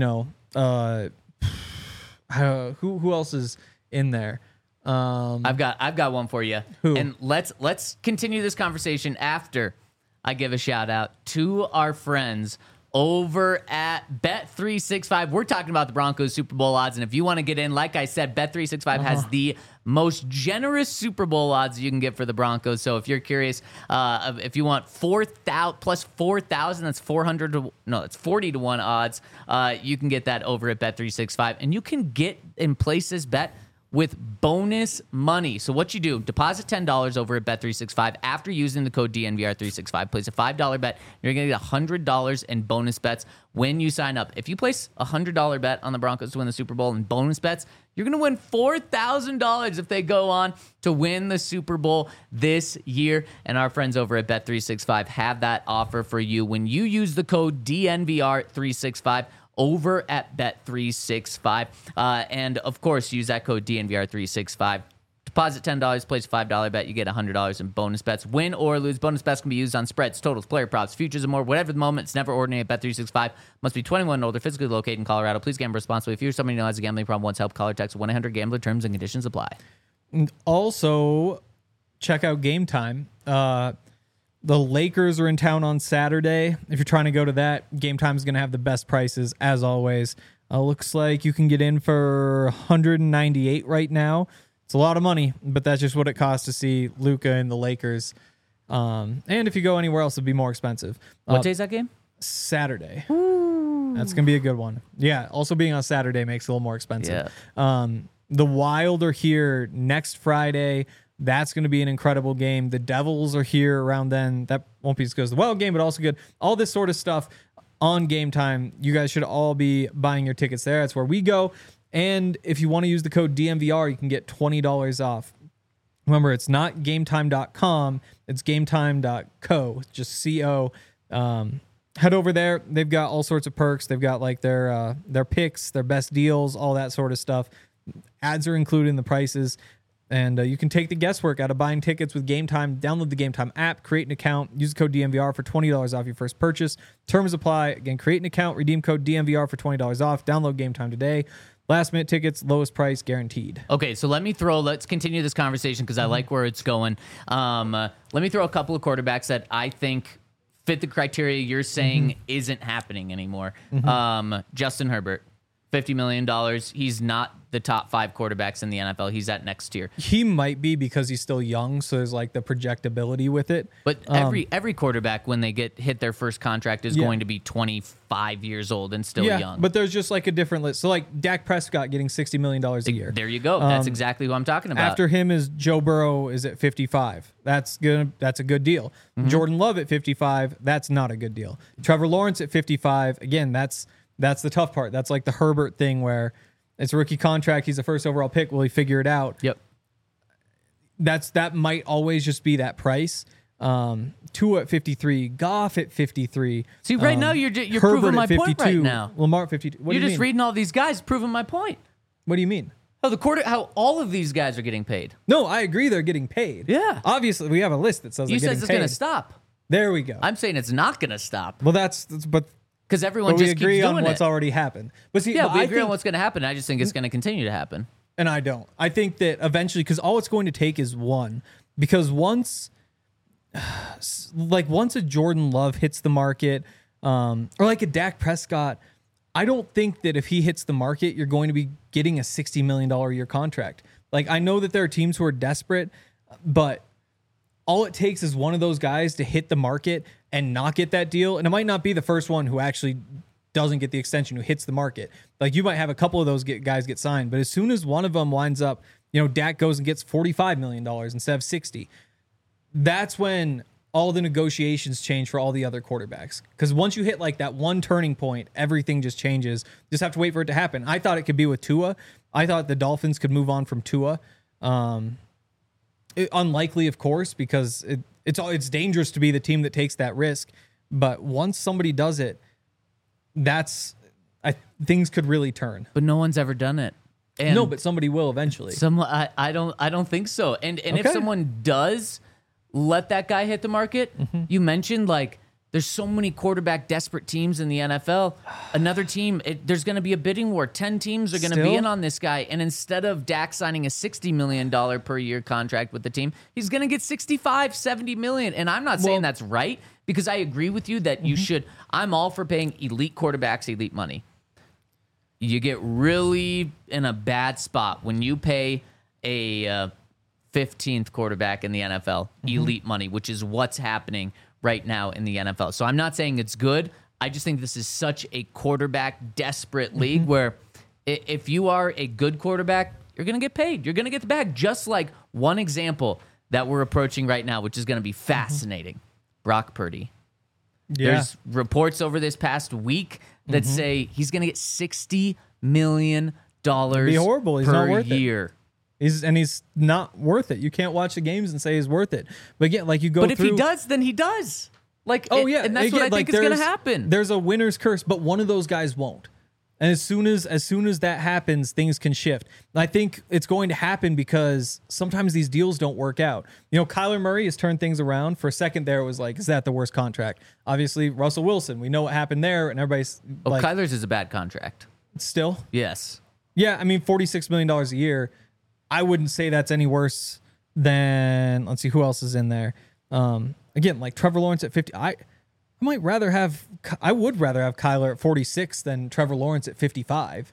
who else is in there? I've got one for you. Who? And let's continue this conversation after I give a shout out to our friends over at Bet365. We're talking about the Broncos Super Bowl odds, and if you want to get in, like I said, Bet365 has the most generous Super Bowl odds you can get for the Broncos. So if you're curious, if you want 4,000 plus 4,000, that's 40 to 1 odds. You can get that over at Bet365, and you can get and place this bet with bonus money. So what you do, deposit $10 over at Bet365 after using the code DNVR365. Place a $5 bet. You're going to get $100 in bonus bets when you sign up. If you place a $100 bet on the Broncos to win the Super Bowl in bonus bets, you're going to win $4,000 if they go on to win the Super Bowl this year. And our friends over at Bet365 have that offer for you when you use the code DNVR365 over at Bet365. And of course, use that code DNVR365. Deposit $10, place a $5 bet, you get $100 in bonus bets. Win or lose, bonus bets can be used on spreads, totals, player props, futures, and more. Whatever the moment, it's never ordinary at Bet365. Must be 21 and older, physically located in Colorado. Please gamble responsibly. If you're somebody who has a gambling problem, once help, call or text 1-800-GAMBLER. Terms and conditions apply. And also, check out Game Time. The Lakers are in town on Saturday. If you're trying to go to that, Game Time is going to have the best prices, as always. Looks like you can get in for $198 right now. It's a lot of money, but that's just what it costs to see Luka and the Lakers. And if you go anywhere else, it'd be more expensive. What day is that game? Saturday. That's going to be a good one. Yeah, also being on Saturday makes it a little more expensive. The Wild are here next Friday. That's going to be an incredible game. The Devils are here around then. That won't be as good as the Wild game, but also good. All this sort of stuff on Game Time. You guys should all be buying your tickets there. That's where we go. And if you want to use the code DNVR, you can get $20 off. Remember, it's not gametime.com. It's gametime.co. Just C-O. Head over there. They've got all sorts of perks. They've got like their picks, their best deals, all that sort of stuff. Ads are included in the prices. And you can take the guesswork out of buying tickets with Game Time. Download the Game Time app, create an account, use the code DNVR for $20 off your first purchase. Terms apply. Again, create an account, redeem code DNVR for $20 off. Download Game Time today. Last minute tickets, lowest price guaranteed. Okay, so let's continue this conversation because I like where it's going. Let me throw a couple of quarterbacks that I think fit the criteria you're saying isn't happening anymore. Justin Herbert, $50 million. He's not the top 5 quarterbacks in the NFL. He's at next tier. He might be because he's still young, so there's like the projectability with it. But every quarterback, when they hit their first contract, is going to be 25 years old and still young. But there's just like a different list. So like Dak Prescott getting $60 million a year. There you go. That's exactly what I'm talking about. After him is Joe Burrow is at 55. That's good. That's a good deal. Jordan Love at 55. That's not a good deal. Trevor Lawrence at 55. Again, that's the tough part. That's like the Herbert thing where it's a rookie contract. He's the first overall pick. Will he figure it out? Yep. That might always just be that price. Tua at 53, Goff at 53. See, right now you're Herbert proving my at 52, point right now. Lamar at 52. What You're do you just mean? reading all these guys, proving my point. What do you mean? How all of these guys are getting paid. No, I agree they're getting paid. Yeah. Obviously, we have a list that says You they're said getting it's paid. going to stop. There we go. I'm saying it's not going to stop Well, but because everyone we just agree keeps on doing what's it. already happened. But see, Yeah, but we I agree think, on what's going to happen. I just think it's going to continue to happen. and I don't. I think that eventually, because all it's going to take is one. Because once a Jordan Love hits the market, or like a Dak Prescott, I don't think that if he hits the market, you're going to be getting a $60 million a year contract. Like, I know that there are teams who are desperate, but all it takes is one of those guys to hit the market and not get that deal. And it might not be the first one who actually doesn't get the extension, who hits the market. Like, you might have a couple of those guys get signed, but as soon as one of them winds up, Dak goes and gets $45 million instead of 60. That's when all the negotiations change for all the other quarterbacks. Because once you hit like that one turning point, everything just changes. Just have to wait for it to happen. I thought it could be with Tua. I thought the Dolphins could move on from Tua. Unlikely, of course, because it's dangerous to be the team that takes that risk. But once somebody does it, things could really turn. But no one's ever done it. And No, but somebody will eventually. I don't think so. And if Okay. someone does let that guy hit the market, you mentioned like there's so many quarterback desperate teams in the NFL. Another team, there's going to be a bidding war. 10 teams are going to be Still? in on this guy, and instead of Dak signing a $60 million per year contract with the team, he's going to get $65-70 million. And I'm not saying that's right, because I agree with you that you should. I'm all for paying elite quarterbacks elite money. You get really in a bad spot when you pay a 15th quarterback in the NFL elite money, which is what's happening right now in the NFL. So I'm not saying it's good. I just think this is such a quarterback desperate league where if you are a good quarterback, you're going to get paid. You're going to get the bag. Just like one example that we're approaching right now, which is going to be fascinating. Brock Purdy. Yeah. There's reports over this past week that say he's going to get $60 million be horrible. He's not per worth it. year. He's not worth it. You can't watch the games and say he's worth it. But again, like you go But if through, he does, then he does. Like, oh yeah, and that's again, what I think is going to happen. There's a winner's curse, but one of those guys won't. And as soon as that happens, things can shift. And I think it's going to happen because sometimes these deals don't work out. Kyler Murray has turned things around. For a second there, it was like, is that the worst contract? Obviously, Russell Wilson, we know what happened there, and everybody's like, Kyler's is a bad contract. still? Yes. Yeah, I mean, $46 million a year. I wouldn't say that's any worse than, let's see, who else is in there. Again, like Trevor Lawrence at 50. I would rather have Kyler at 46 than Trevor Lawrence at 55,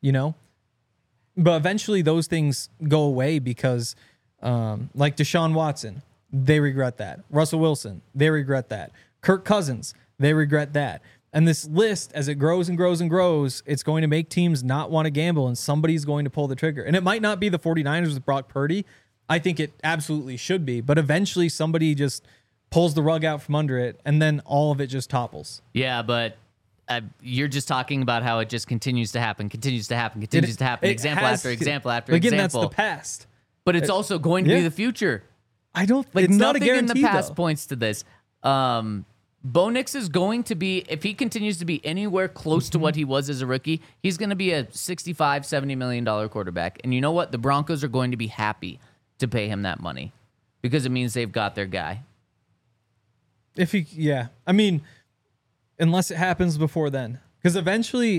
But eventually those things go away because, like Deshaun Watson, they regret that. Russell Wilson, they regret that. Kirk Cousins, they regret that. And this list, as it grows and grows and grows, it's going to make teams not want to gamble, and somebody's going to pull the trigger. And it might not be the 49ers with Brock Purdy. I think it absolutely should be. But eventually somebody just pulls the rug out from under it, and then all of it just topples. Yeah, but you're just talking about how it just continues to happen. Example after example after again, example. That's the past. But it's also going to be yeah. the future. I don't. Like, It's not a nothing in guarantee. the past though. points to this. Bo Nix is going to be, if he continues to be anywhere close to what he was as a rookie, he's going to be a $65-70 million quarterback. And you know what? The Broncos are going to be happy to pay him that money because it means they've got their guy. I mean, unless it happens before then, because eventually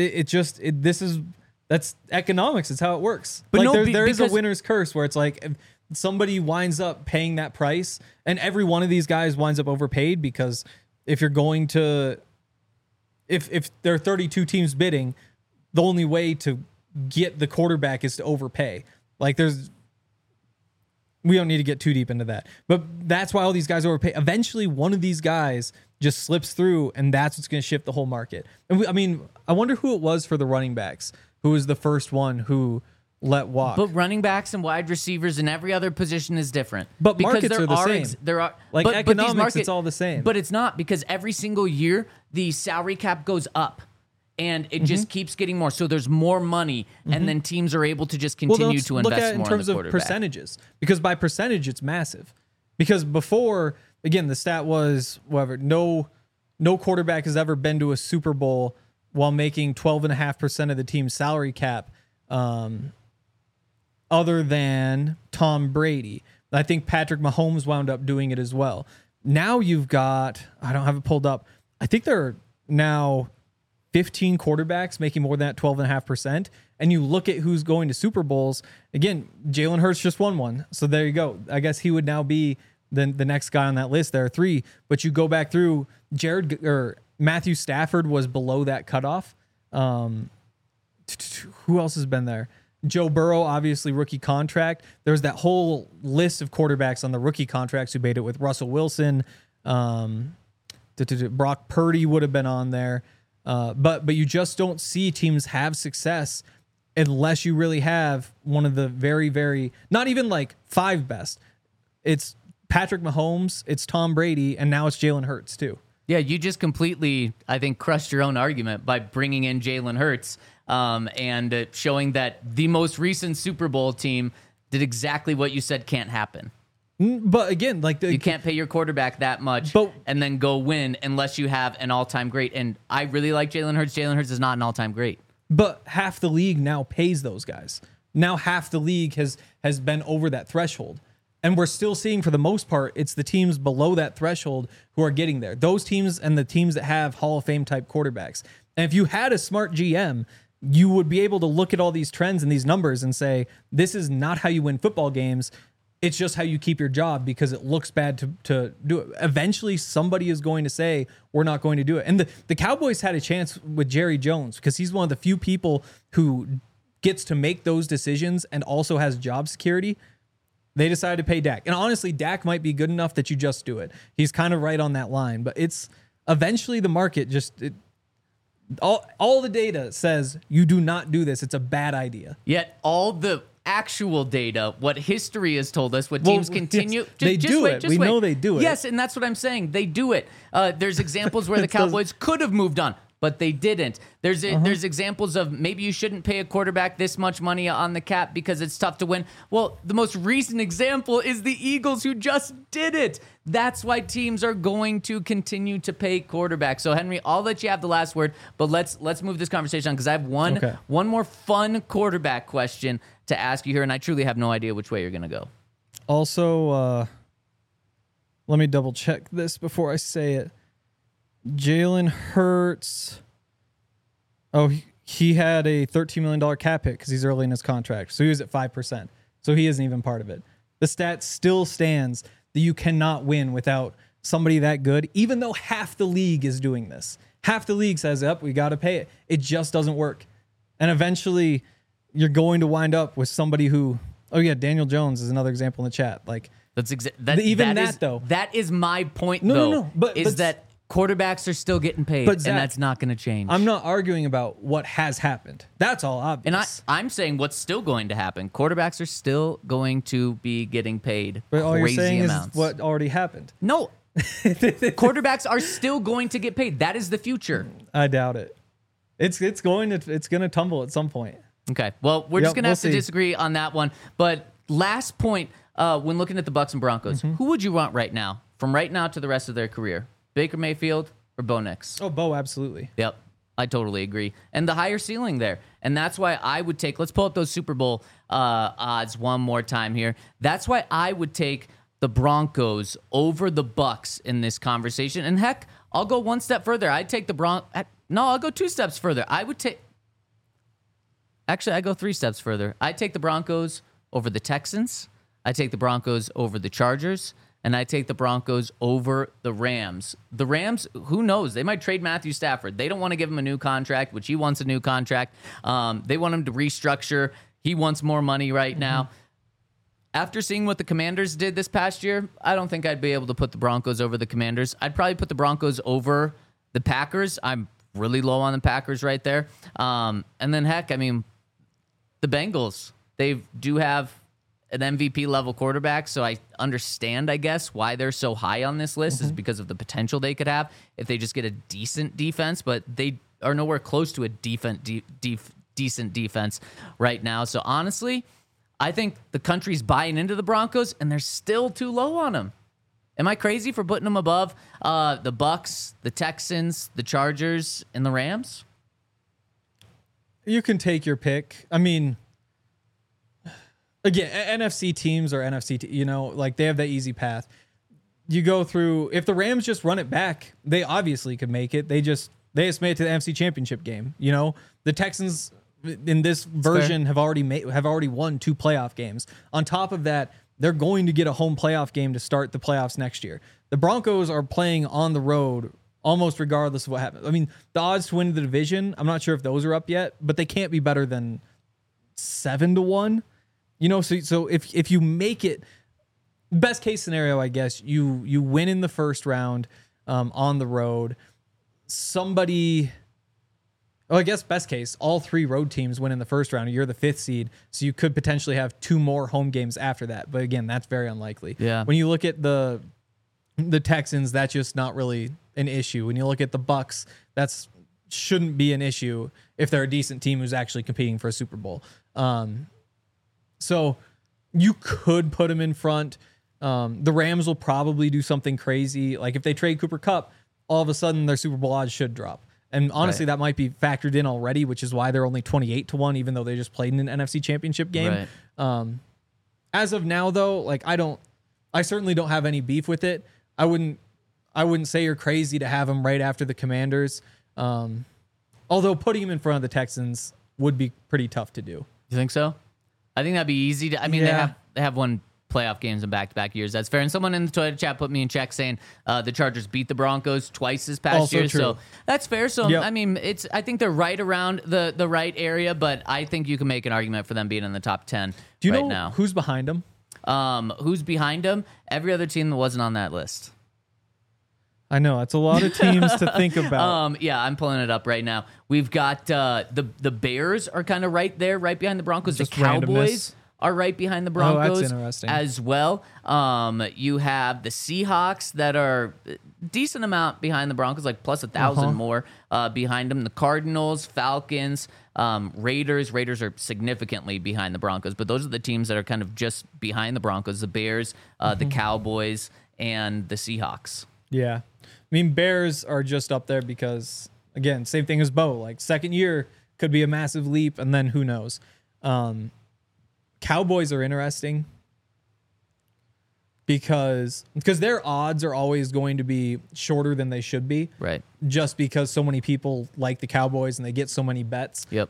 that's economics. It's how it works. But Like, no, there is a because- winner's curse where it's like, if somebody winds up paying that price, and every one of these guys winds up overpaid, because if you're going to, if there are 32 teams bidding, the only way to get the quarterback is to overpay. Like we don't need to get too deep into that, but that's why all these guys overpay. Eventually one of these guys just slips through, and that's what's going to shift the whole market. And I wonder who it was for the running backs, who was the first one who let walk. But running backs and wide receivers and every other position is different. But because markets are the same. There are like but economics, it's all the same. But it's not, because every single year the salary cap goes up. And it just keeps getting more. So there's more money, and then teams are able to just continue to invest look at it more in terms in the of percentages, because by percentage it's massive. Because before, again, the stat was whatever, no quarterback has ever been to a Super Bowl while making 12.5% of the team's salary cap, other than Tom Brady. I think Patrick Mahomes wound up doing it as well. Now you've got, I don't have it pulled up, I think there are now 15 quarterbacks making more than that 12.5%. And you look at who's going to Super Bowls. Again, Jalen Hurts just won one. So there you go. I guess he would now be the next guy on that list. There are 3. But you go back through, Matthew Stafford was below that cutoff. Who else has been there? Joe Burrow, obviously rookie contract. There's that whole list of quarterbacks on the rookie contracts who made it with Russell Wilson. Brock Purdy would have been on there. But you just don't see teams have success unless you really have one of the very, very, not even like 5 best. It's Patrick Mahomes, it's Tom Brady, and now it's Jalen Hurts too. Yeah, you just completely, I think, crushed your own argument by bringing in Jalen Hurts and showing that the most recent Super Bowl team did exactly what you said can't happen. But again, like you can't pay your quarterback that much and then go win unless you have an all-time great. And I really like Jalen Hurts. Jalen Hurts is not an all-time great. But half the league now pays those guys. Now half the league has been over that threshold. And we're still seeing, for the most part, it's the teams below that threshold who are getting there. Those teams and the teams that have Hall of Fame type quarterbacks. And if you had a smart GM, you would be able to look at all these trends and these numbers and say, this is not how you win football games. It's just how you keep your job, because it looks bad to do it. Eventually, somebody is going to say, we're not going to do it. And the Cowboys had a chance with Jerry Jones, because he's one of the few people who gets to make those decisions and also has job security. They decided to pay Dak. And honestly, Dak might be good enough that you just do it. He's kind of right on that line. But it's eventually the market all the data says you do not do this. It's a bad idea. Yet all the actual data, what history has told us, what teams continue. Yes, they do it. We know they do it. Yes, and that's what I'm saying. They do it. There's examples where the Cowboys could have moved on, but they didn't. There's examples of maybe you shouldn't pay a quarterback this much money on the cap because it's tough to win. Well, the most recent example is the Eagles, who just did it. That's why teams are going to continue to pay quarterbacks. So, Henry, I'll let you have the last word, but let's move this conversation on, because I have one more fun quarterback question to ask you here, and I truly have no idea which way you're going to go. Also, let me double check this before I say it. Jalen Hurts. Oh, he had a $13 million cap hit because he's early in his contract. So he was at 5%. So he isn't even part of it. The stat still stands that you cannot win without somebody that good, even though half the league is doing this. Half the league says, we got to pay it. It just doesn't work. And eventually you're going to wind up with somebody who, Daniel Jones is another example in the chat. Like, that is my point, No. But that quarterbacks are still getting paid, Zach, and that's not going to change. I'm not arguing about what has happened. That's all obvious. And I'm saying what's still going to happen. Quarterbacks are still going to be getting paid but all crazy you're saying amounts. Is what already happened. No. Quarterbacks are still going to get paid. That is the future. I doubt it. It's going to tumble at some point. Okay. Well, we're just going to have to disagree on that one. But last point, when looking at the Bucs and Broncos, who would you want right now, from right now to the rest of their career? Baker Mayfield or Bo Nix? Oh, Bo, absolutely. Yep, I totally agree. And the higher ceiling there. And that's why I would take, let's pull up those Super Bowl odds one more time here. That's why I would take the Broncos over the Bucs in this conversation. And heck, I'll go one step further. I'd take I'll go 2 steps further. I go 3 steps further. I'd take the Broncos over the Texans. I'd take the Broncos over the Chargers. and I take the Broncos over the Rams. The Rams, who knows? They might trade Matthew Stafford. They don't want to give him a new contract, which he wants a new contract. They want him to restructure. He wants more money right now. After seeing what the Commanders did this past year, I don't think I'd be able to put the Broncos over the Commanders. I'd probably put the Broncos over the Packers. I'm really low on the Packers right there. And then, heck, I mean, the Bengals, they do have an MVP level quarterback, so I understand, I guess, why they're so high on this list is because of the potential they could have if they just get a decent defense, but they are nowhere close to a decent defense right now. So honestly, I think the country's buying into the Broncos, and they're still too low on them. Am I crazy for putting them above the Bucks, the Texans, the Chargers, and the Rams? You can take your pick. I mean, again, NFC teams are NFC, like they have that easy path. You go through, if the Rams just run it back, they obviously could make it. They just made it to the NFC Championship game. The Texans in this version have already won 2 playoff games. On top of that, they're going to get a home playoff game to start the playoffs next year. The Broncos are playing on the road almost regardless of what happens. I mean, the odds to win the division, I'm not sure if those are up yet, but they can't be better than 7-1. So if you make it, best case scenario, I guess, you win in the first round on the road. I guess best case, all 3 road teams win in the first round. You're the 5th seed, so you could potentially have 2 more home games after that. But again, that's very unlikely. Yeah. When you look at the Texans, that's just not really an issue. When you look at the Bucks, that's shouldn't be an issue if they're a decent team who's actually competing for a Super Bowl. So you could put them in front. The Rams will probably do something crazy. Like if they trade Cooper Kupp, all of a sudden their Super Bowl odds should drop. And honestly, that might be factored in already, which is why they're only 28-1, even though they just played in an NFC Championship game. Right. As of now, though, I certainly don't have any beef with it. I wouldn't say you're crazy to have them right after the Commanders. Although putting them in front of the Texans would be pretty tough to do. You think so? I think that'd be easy to. I mean, they have won playoff games in back-to-back years. That's fair. And someone in the Twitter chat put me in check saying the Chargers beat the Broncos twice this past also year. True. So that's fair. So I mean, I think they're right around the right area, but I think you can make an argument for them being in the top 10. Do you right know now. Who's behind them? Who's behind them? Every other team that wasn't on that list. I know it's a lot of teams to think about. Yeah, I'm pulling it up right now. We've got the Bears are kind of right there, right behind the Broncos. Just the Cowboys randomness. are right behind the Broncos that's interesting. as well. You have the Seahawks that are a decent amount behind the Broncos, like plus 1,000 more behind them. The Cardinals, Falcons, Raiders. Raiders are significantly behind the Broncos, but those are the teams that are kind of just behind the Broncos. The Bears, the Cowboys, and the Seahawks. Yeah. I mean, Bears are just up there because, again, same thing as Bo. Like, second year could be a massive leap, and then who knows. Cowboys are interesting because their odds are always going to be shorter than they should be. Right. Just because so many people like the Cowboys and they get so many bets. Yep.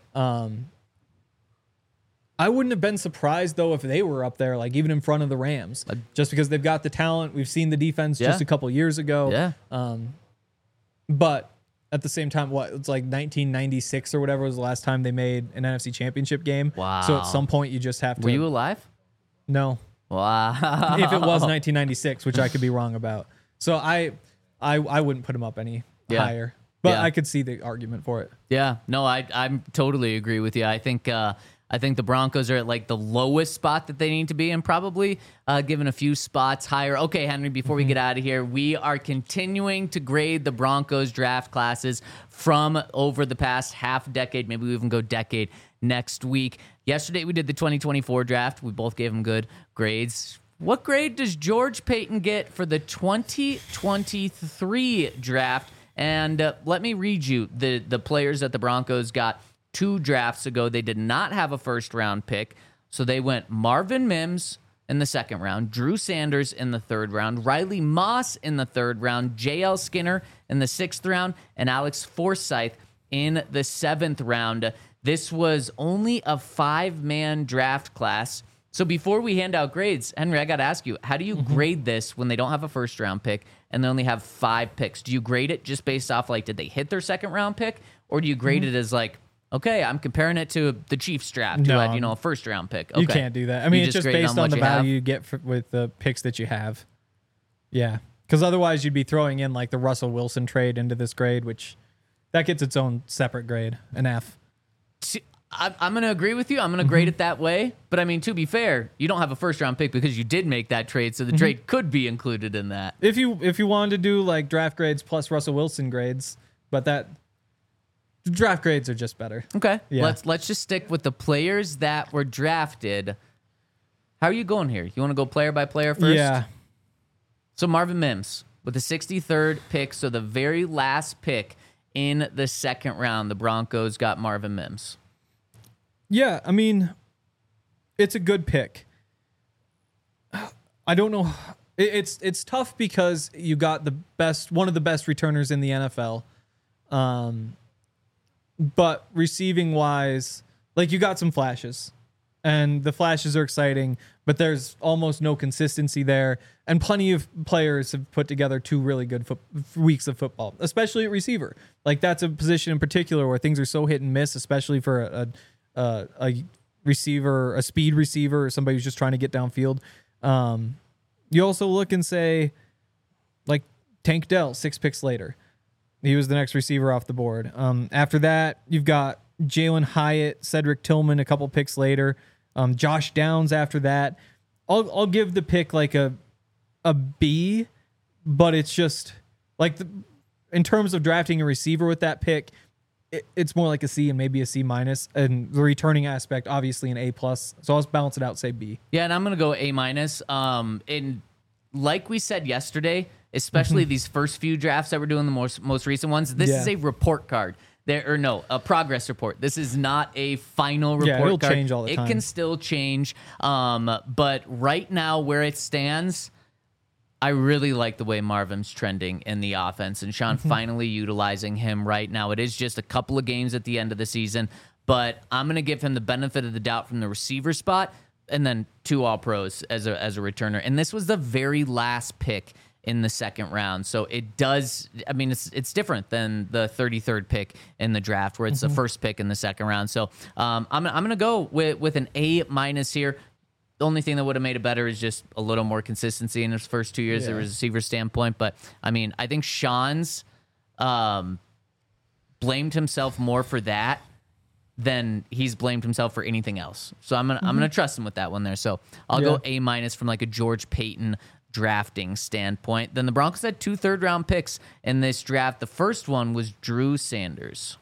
I wouldn't have been surprised, though, if they were up there, like even in front of the Rams, just because they've got the talent. We've seen the defense just a couple years ago. Yeah. But at the same time, it's like 1996 or whatever was the last time they made an NFC Championship game. Wow. So at some point, you just have to. Were you alive? No. Wow. If it was 1996, which I could be wrong about. So I wouldn't put them up any higher. But I could see the argument for it. Yeah. No, I totally agree with you. I think the Broncos are at like the lowest spot that they need to be and probably given a few spots higher. Okay, Henry, before we get out of here, we are continuing to grade the Broncos draft classes from over the past half decade. Maybe we even go decade next week. Yesterday, we did the 2024 draft. We both gave them good grades. What grade does George Paton get for the 2023 draft? And let me read you the players that the Broncos got 2 drafts ago. They did not have a first-round pick, so they went Marvin Mims in the second round, Drew Sanders in the third round, Riley Moss in the third round, J.L. Skinner in the sixth round, and Alex Forsyth in the seventh round. This was only a 5-man draft class, So before we hand out grades, Henry, I got to ask you, how do you grade this when they don't have a first round pick and they only have 5 picks? Do you grade it just based off like, did they hit their second round pick? Or do you grade it as like, okay, I'm comparing it to the Chiefs draft who No, had, a first round pick. Okay. You can't do that. I mean, You it's just grade it based on on the what you have? value you get with the picks that you have. Yeah. Because otherwise you'd be throwing in like the Russell Wilson trade into this grade, which that gets its own separate grade, an F. See, I'm going to agree with you. I'm going to grade it that way. But I mean, to be fair, you don't have a first round pick because you did make that trade. So the trade could be included in that. If you wanted to do like draft grades plus Russell Wilson grades, but that draft grades are just better. Okay. Yeah. Let's just stick with the players that were drafted. How are you going here? You want to go player by player first? Yeah. So Marvin Mims with the 63rd pick, so the very last pick in the second round, the Broncos got Marvin Mims. Yeah, I mean, it's a good pick. I don't know. It's tough because you got one of the best returners in the NFL. But receiving wise, like you got some flashes. And the flashes are exciting, but there's almost no consistency there. And plenty of players have put together 2 really good weeks of football, especially at receiver. Like that's a position in particular where things are so hit and miss, especially for a receiver, a speed receiver, or somebody who's just trying to get downfield. You also look and say, like Tank Dell, 6 picks later. He was the next receiver off the board. After that, you've got Jalen Hyatt, Cedric Tillman, a couple picks later. Josh Downs after that. I'll give the pick like a B, but it's just like in terms of drafting a receiver with that pick, it's more like a C and maybe a C minus, and the returning aspect obviously an A plus. So I'll balance it out, say B. Yeah, and I'm gonna go A minus. And like we said yesterday, especially these first few drafts that we're doing, the most recent ones, this is a report card. A progress report. This is not a final report it'll card. change all the time. It can still change. But right now, where it stands, I really like the way Marvin's trending in the offense, and Sean finally utilizing him right now. It is just a couple of games at the end of the season, but I'm going to give him the benefit of the doubt from the receiver spot, and then 2 All-Pros as a returner. And this was the very last pick in the second round. So it does, I mean, it's different than the 33rd pick in the draft where it's the first pick in the second round. So I'm going to go with an A minus here. The only thing that would have made it better is just a little more consistency in his first 2 years as a receiver standpoint. But I mean, I think Sean's blamed himself more for that than he's blamed himself for anything else. So I'm gonna trust him with that one there. So I'll go A minus from like a George Payton drafting standpoint. Then the Broncos had 2 third-round picks in this draft. The first one was Drew Sanders.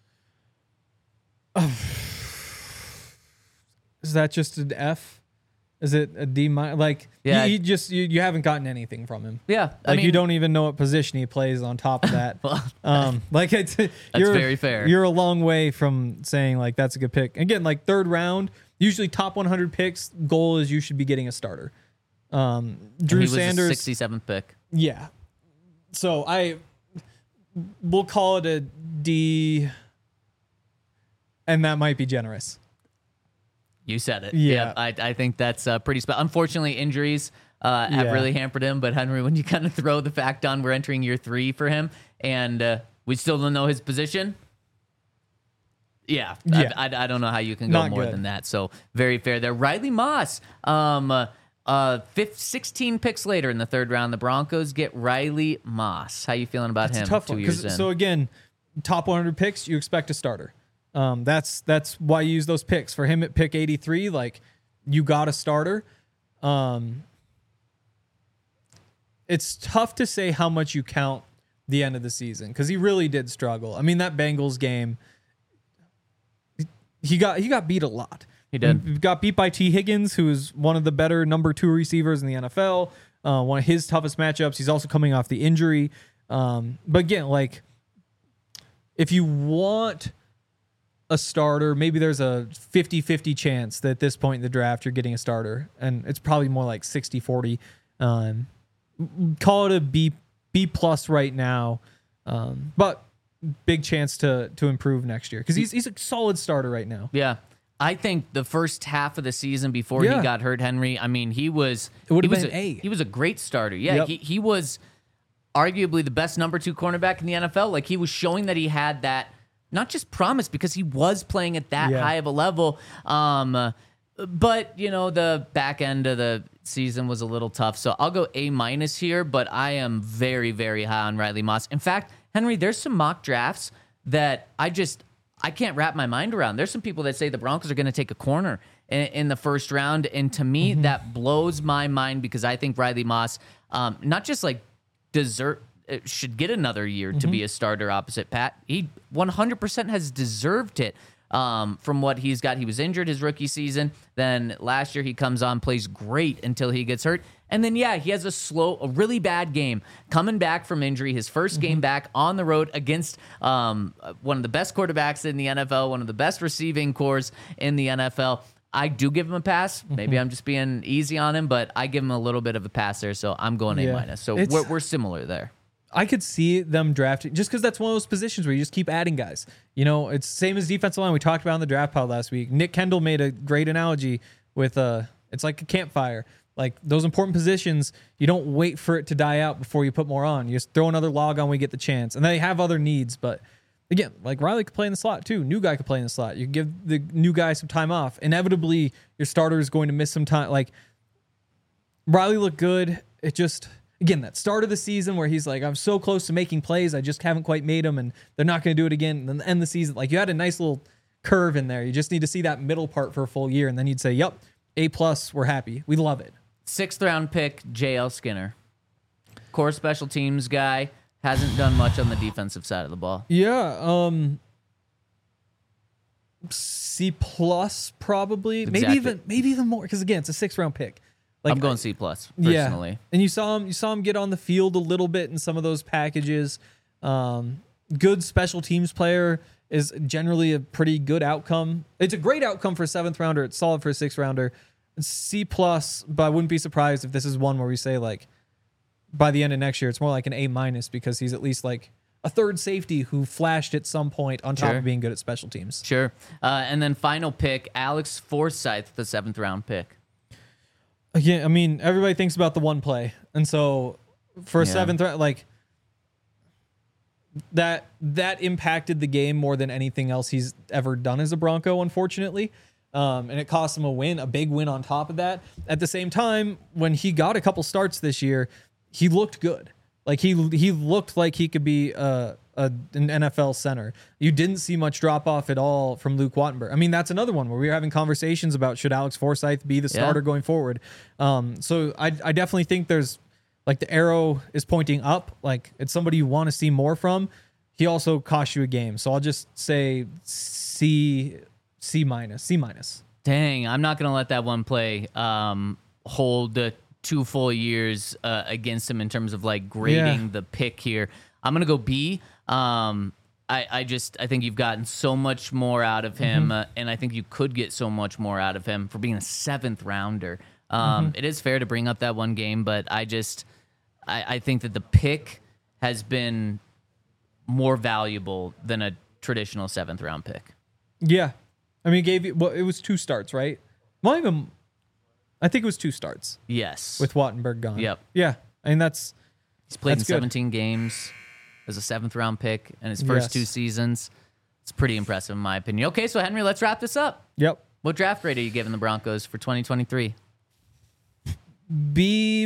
Is that just an F? Is it a D minus? Like, he just you haven't gotten anything from him. Yeah, Like you don't even know what position he plays on top of that. Like that's very fair. You're a long way from saying like that's a good pick. Again, like third round, usually top 100 picks. Goal is you should be getting a starter. Drew Sanders, was the 67th pick. Yeah. So we'll call it a D, and that might be generous. You said it. Yeah. I think that's pretty special. Unfortunately, injuries have really hampered him. But Henry, when you kind of throw the fact on, we're entering year 3 for him, and we still don't know his position. Yeah. I don't know how you can go Not more good. than that. So very fair there. Riley Moss, 16 picks later in the third round, the Broncos get Riley Moss. How you feeling about him? It's a tough 2 one. years in? So again, top 100 picks, you expect a starter. That's why you use those picks. For him at pick 83, like you got a starter. It's tough to say how much you count the end of the season because he really did struggle. I mean, that Bengals game, he got beat a lot. He did. He got beat by T. Higgins, who is one of the better number 2 receivers in the NFL. One of his toughest matchups. He's also coming off the injury. But again, like if you want a starter, maybe there's a 50-50 chance that at this point in the draft you're getting a starter, and it's probably more like 60-40. Call it a B plus right now, but big chance to improve next year because he's a solid starter right now. Yeah. I think the first half of the season before he got hurt, Henry, I mean, he was a great starter. Yeah, Yep. he was arguably the best number 2 cornerback in the NFL. Like, he was showing that he had that, not just promise, because he was playing at that high of a level. But, the back end of the season was a little tough. So I'll go A- here, but I am very, very high on Riley Moss. In fact, Henry, there's some mock drafts that I can't wrap my mind around. There's some people that say the Broncos are going to take a corner in the first round. And to me, that blows my mind, because I think Riley Moss, not just like should get another year to be a starter opposite Pat. He 100% has deserved it. From what he's got. He was injured his rookie season. Then last year he comes on, plays great until he gets hurt. And then, he has a really bad game coming back from injury. His first game back on the road against one of the best quarterbacks in the NFL, one of the best receiving cores in the NFL. I do give him a pass. Maybe I'm just being easy on him, but I give him a little bit of a pass there. So I'm going A-. So we're similar there. I could see them drafting, just because that's one of those positions where you just keep adding guys. It's same as defensive line. We talked about in the draft pod last week. Nick Kendall made a great analogy with it's like a campfire. Like, those important positions, you don't wait for it to die out before you put more on. You just throw another log on when you get the chance. And they have other needs, but again, like, Riley could play in the slot too. New guy could play in the slot. You give the new guy some time off. Inevitably, your starter is going to miss some time. Like, Riley looked good. It just... Again, that start of the season where he's like, I'm so close to making plays, I just haven't quite made them, and they're not going to do it again. And then end the season, like, you had a nice little curve in there. You just need to see that middle part for a full year, and then you'd say, yep, A+, we're happy. We love it. 6th round pick, J.L. Skinner. Core special teams guy, hasn't done much on the defensive side of the ball. Yeah, C+ probably. Exactly. Maybe even more, because again, it's a 6th round pick. Like, I'm going C+ personally. Yeah. And you saw him get on the field a little bit in some of those packages. Good special teams player is generally a pretty good outcome. It's a great outcome for a 7th rounder. It's solid for a 6th rounder. C+, but I wouldn't be surprised if this is one where we say, like, by the end of next year, it's more like an A- because he's at least like a third safety who flashed at some point on top of being good at special teams. Sure. And then final pick, Alex Forsyth, the 7th round pick. Yeah, I mean, everybody thinks about the one play. And so for a 7th round, like, that impacted the game more than anything else he's ever done as a Bronco, unfortunately. And it cost him a big win on top of that. At the same time, when he got a couple starts this year, he looked good. Like, he looked like he could be an NFL center. You didn't see much drop off at all from Luke Wattenberg. I mean, that's another one where we were having conversations about should Alex Forsyth be the starter going forward. So I definitely think there's, like, the arrow is pointing up. Like, it's somebody you want to see more from. He also cost you a game. So I'll just say C-. Dang, I'm not going to let that one play hold 2 full years against him in terms of, like, grading the pick here. I'm going to go B. I think you've gotten so much more out of him, and I think you could get so much more out of him for being a 7th rounder. It is fair to bring up that one game, but I think that the pick has been more valuable than a traditional 7th round pick. Yeah. I mean, it was 2 starts, right? Well, even, I think it was 2 starts. Yes. With Wattenberg gone. Yep. Yeah. I mean, he's played in 17 games as a 7th round pick in his first 2 seasons. It's pretty impressive in my opinion. Okay, so Henry, let's wrap this up. Yep. What draft grade are you giving the Broncos for 2023? B-.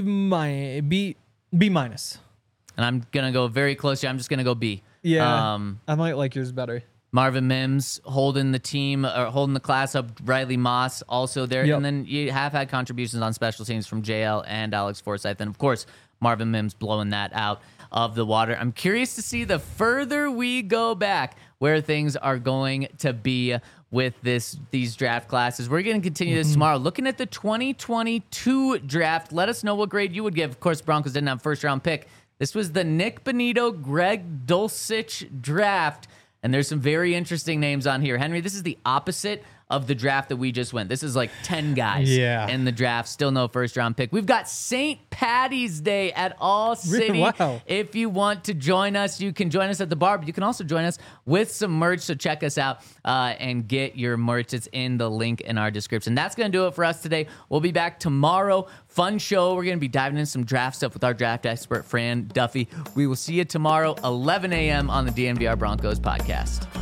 And I'm going to go very close here. I'm just going to go B. Yeah. I might like yours better. Marvin Mims holding the class up. Riley Moss also there. Yep. And then you have had contributions on special teams from JL and Alex Forsyth. And, of course, Marvin Mims blowing that out of the water. I'm curious to see the further we go back where things are going to be with these draft classes. We're going to continue this tomorrow. Looking at the 2022 draft, let us know what grade you would give. Of course, Broncos didn't have first-round pick. This was the Nick Bonito, Greg Dulcich draft. And there's some very interesting names on here. Henry, this is the opposite of the draft that we just went. This is like 10 guys in the draft. Still no first round pick. We've got St. Patty's Day at All City. Wow. If you want to join us, you can join us at the bar, but you can also join us with some merch. So check us out and get your merch. It's in the link in our description. That's going to do it for us today. We'll be back tomorrow. Fun show. We're going to be diving into some draft stuff with our draft expert, Fran Duffy. We will see you tomorrow, 11 a.m. on the DNVR Broncos podcast.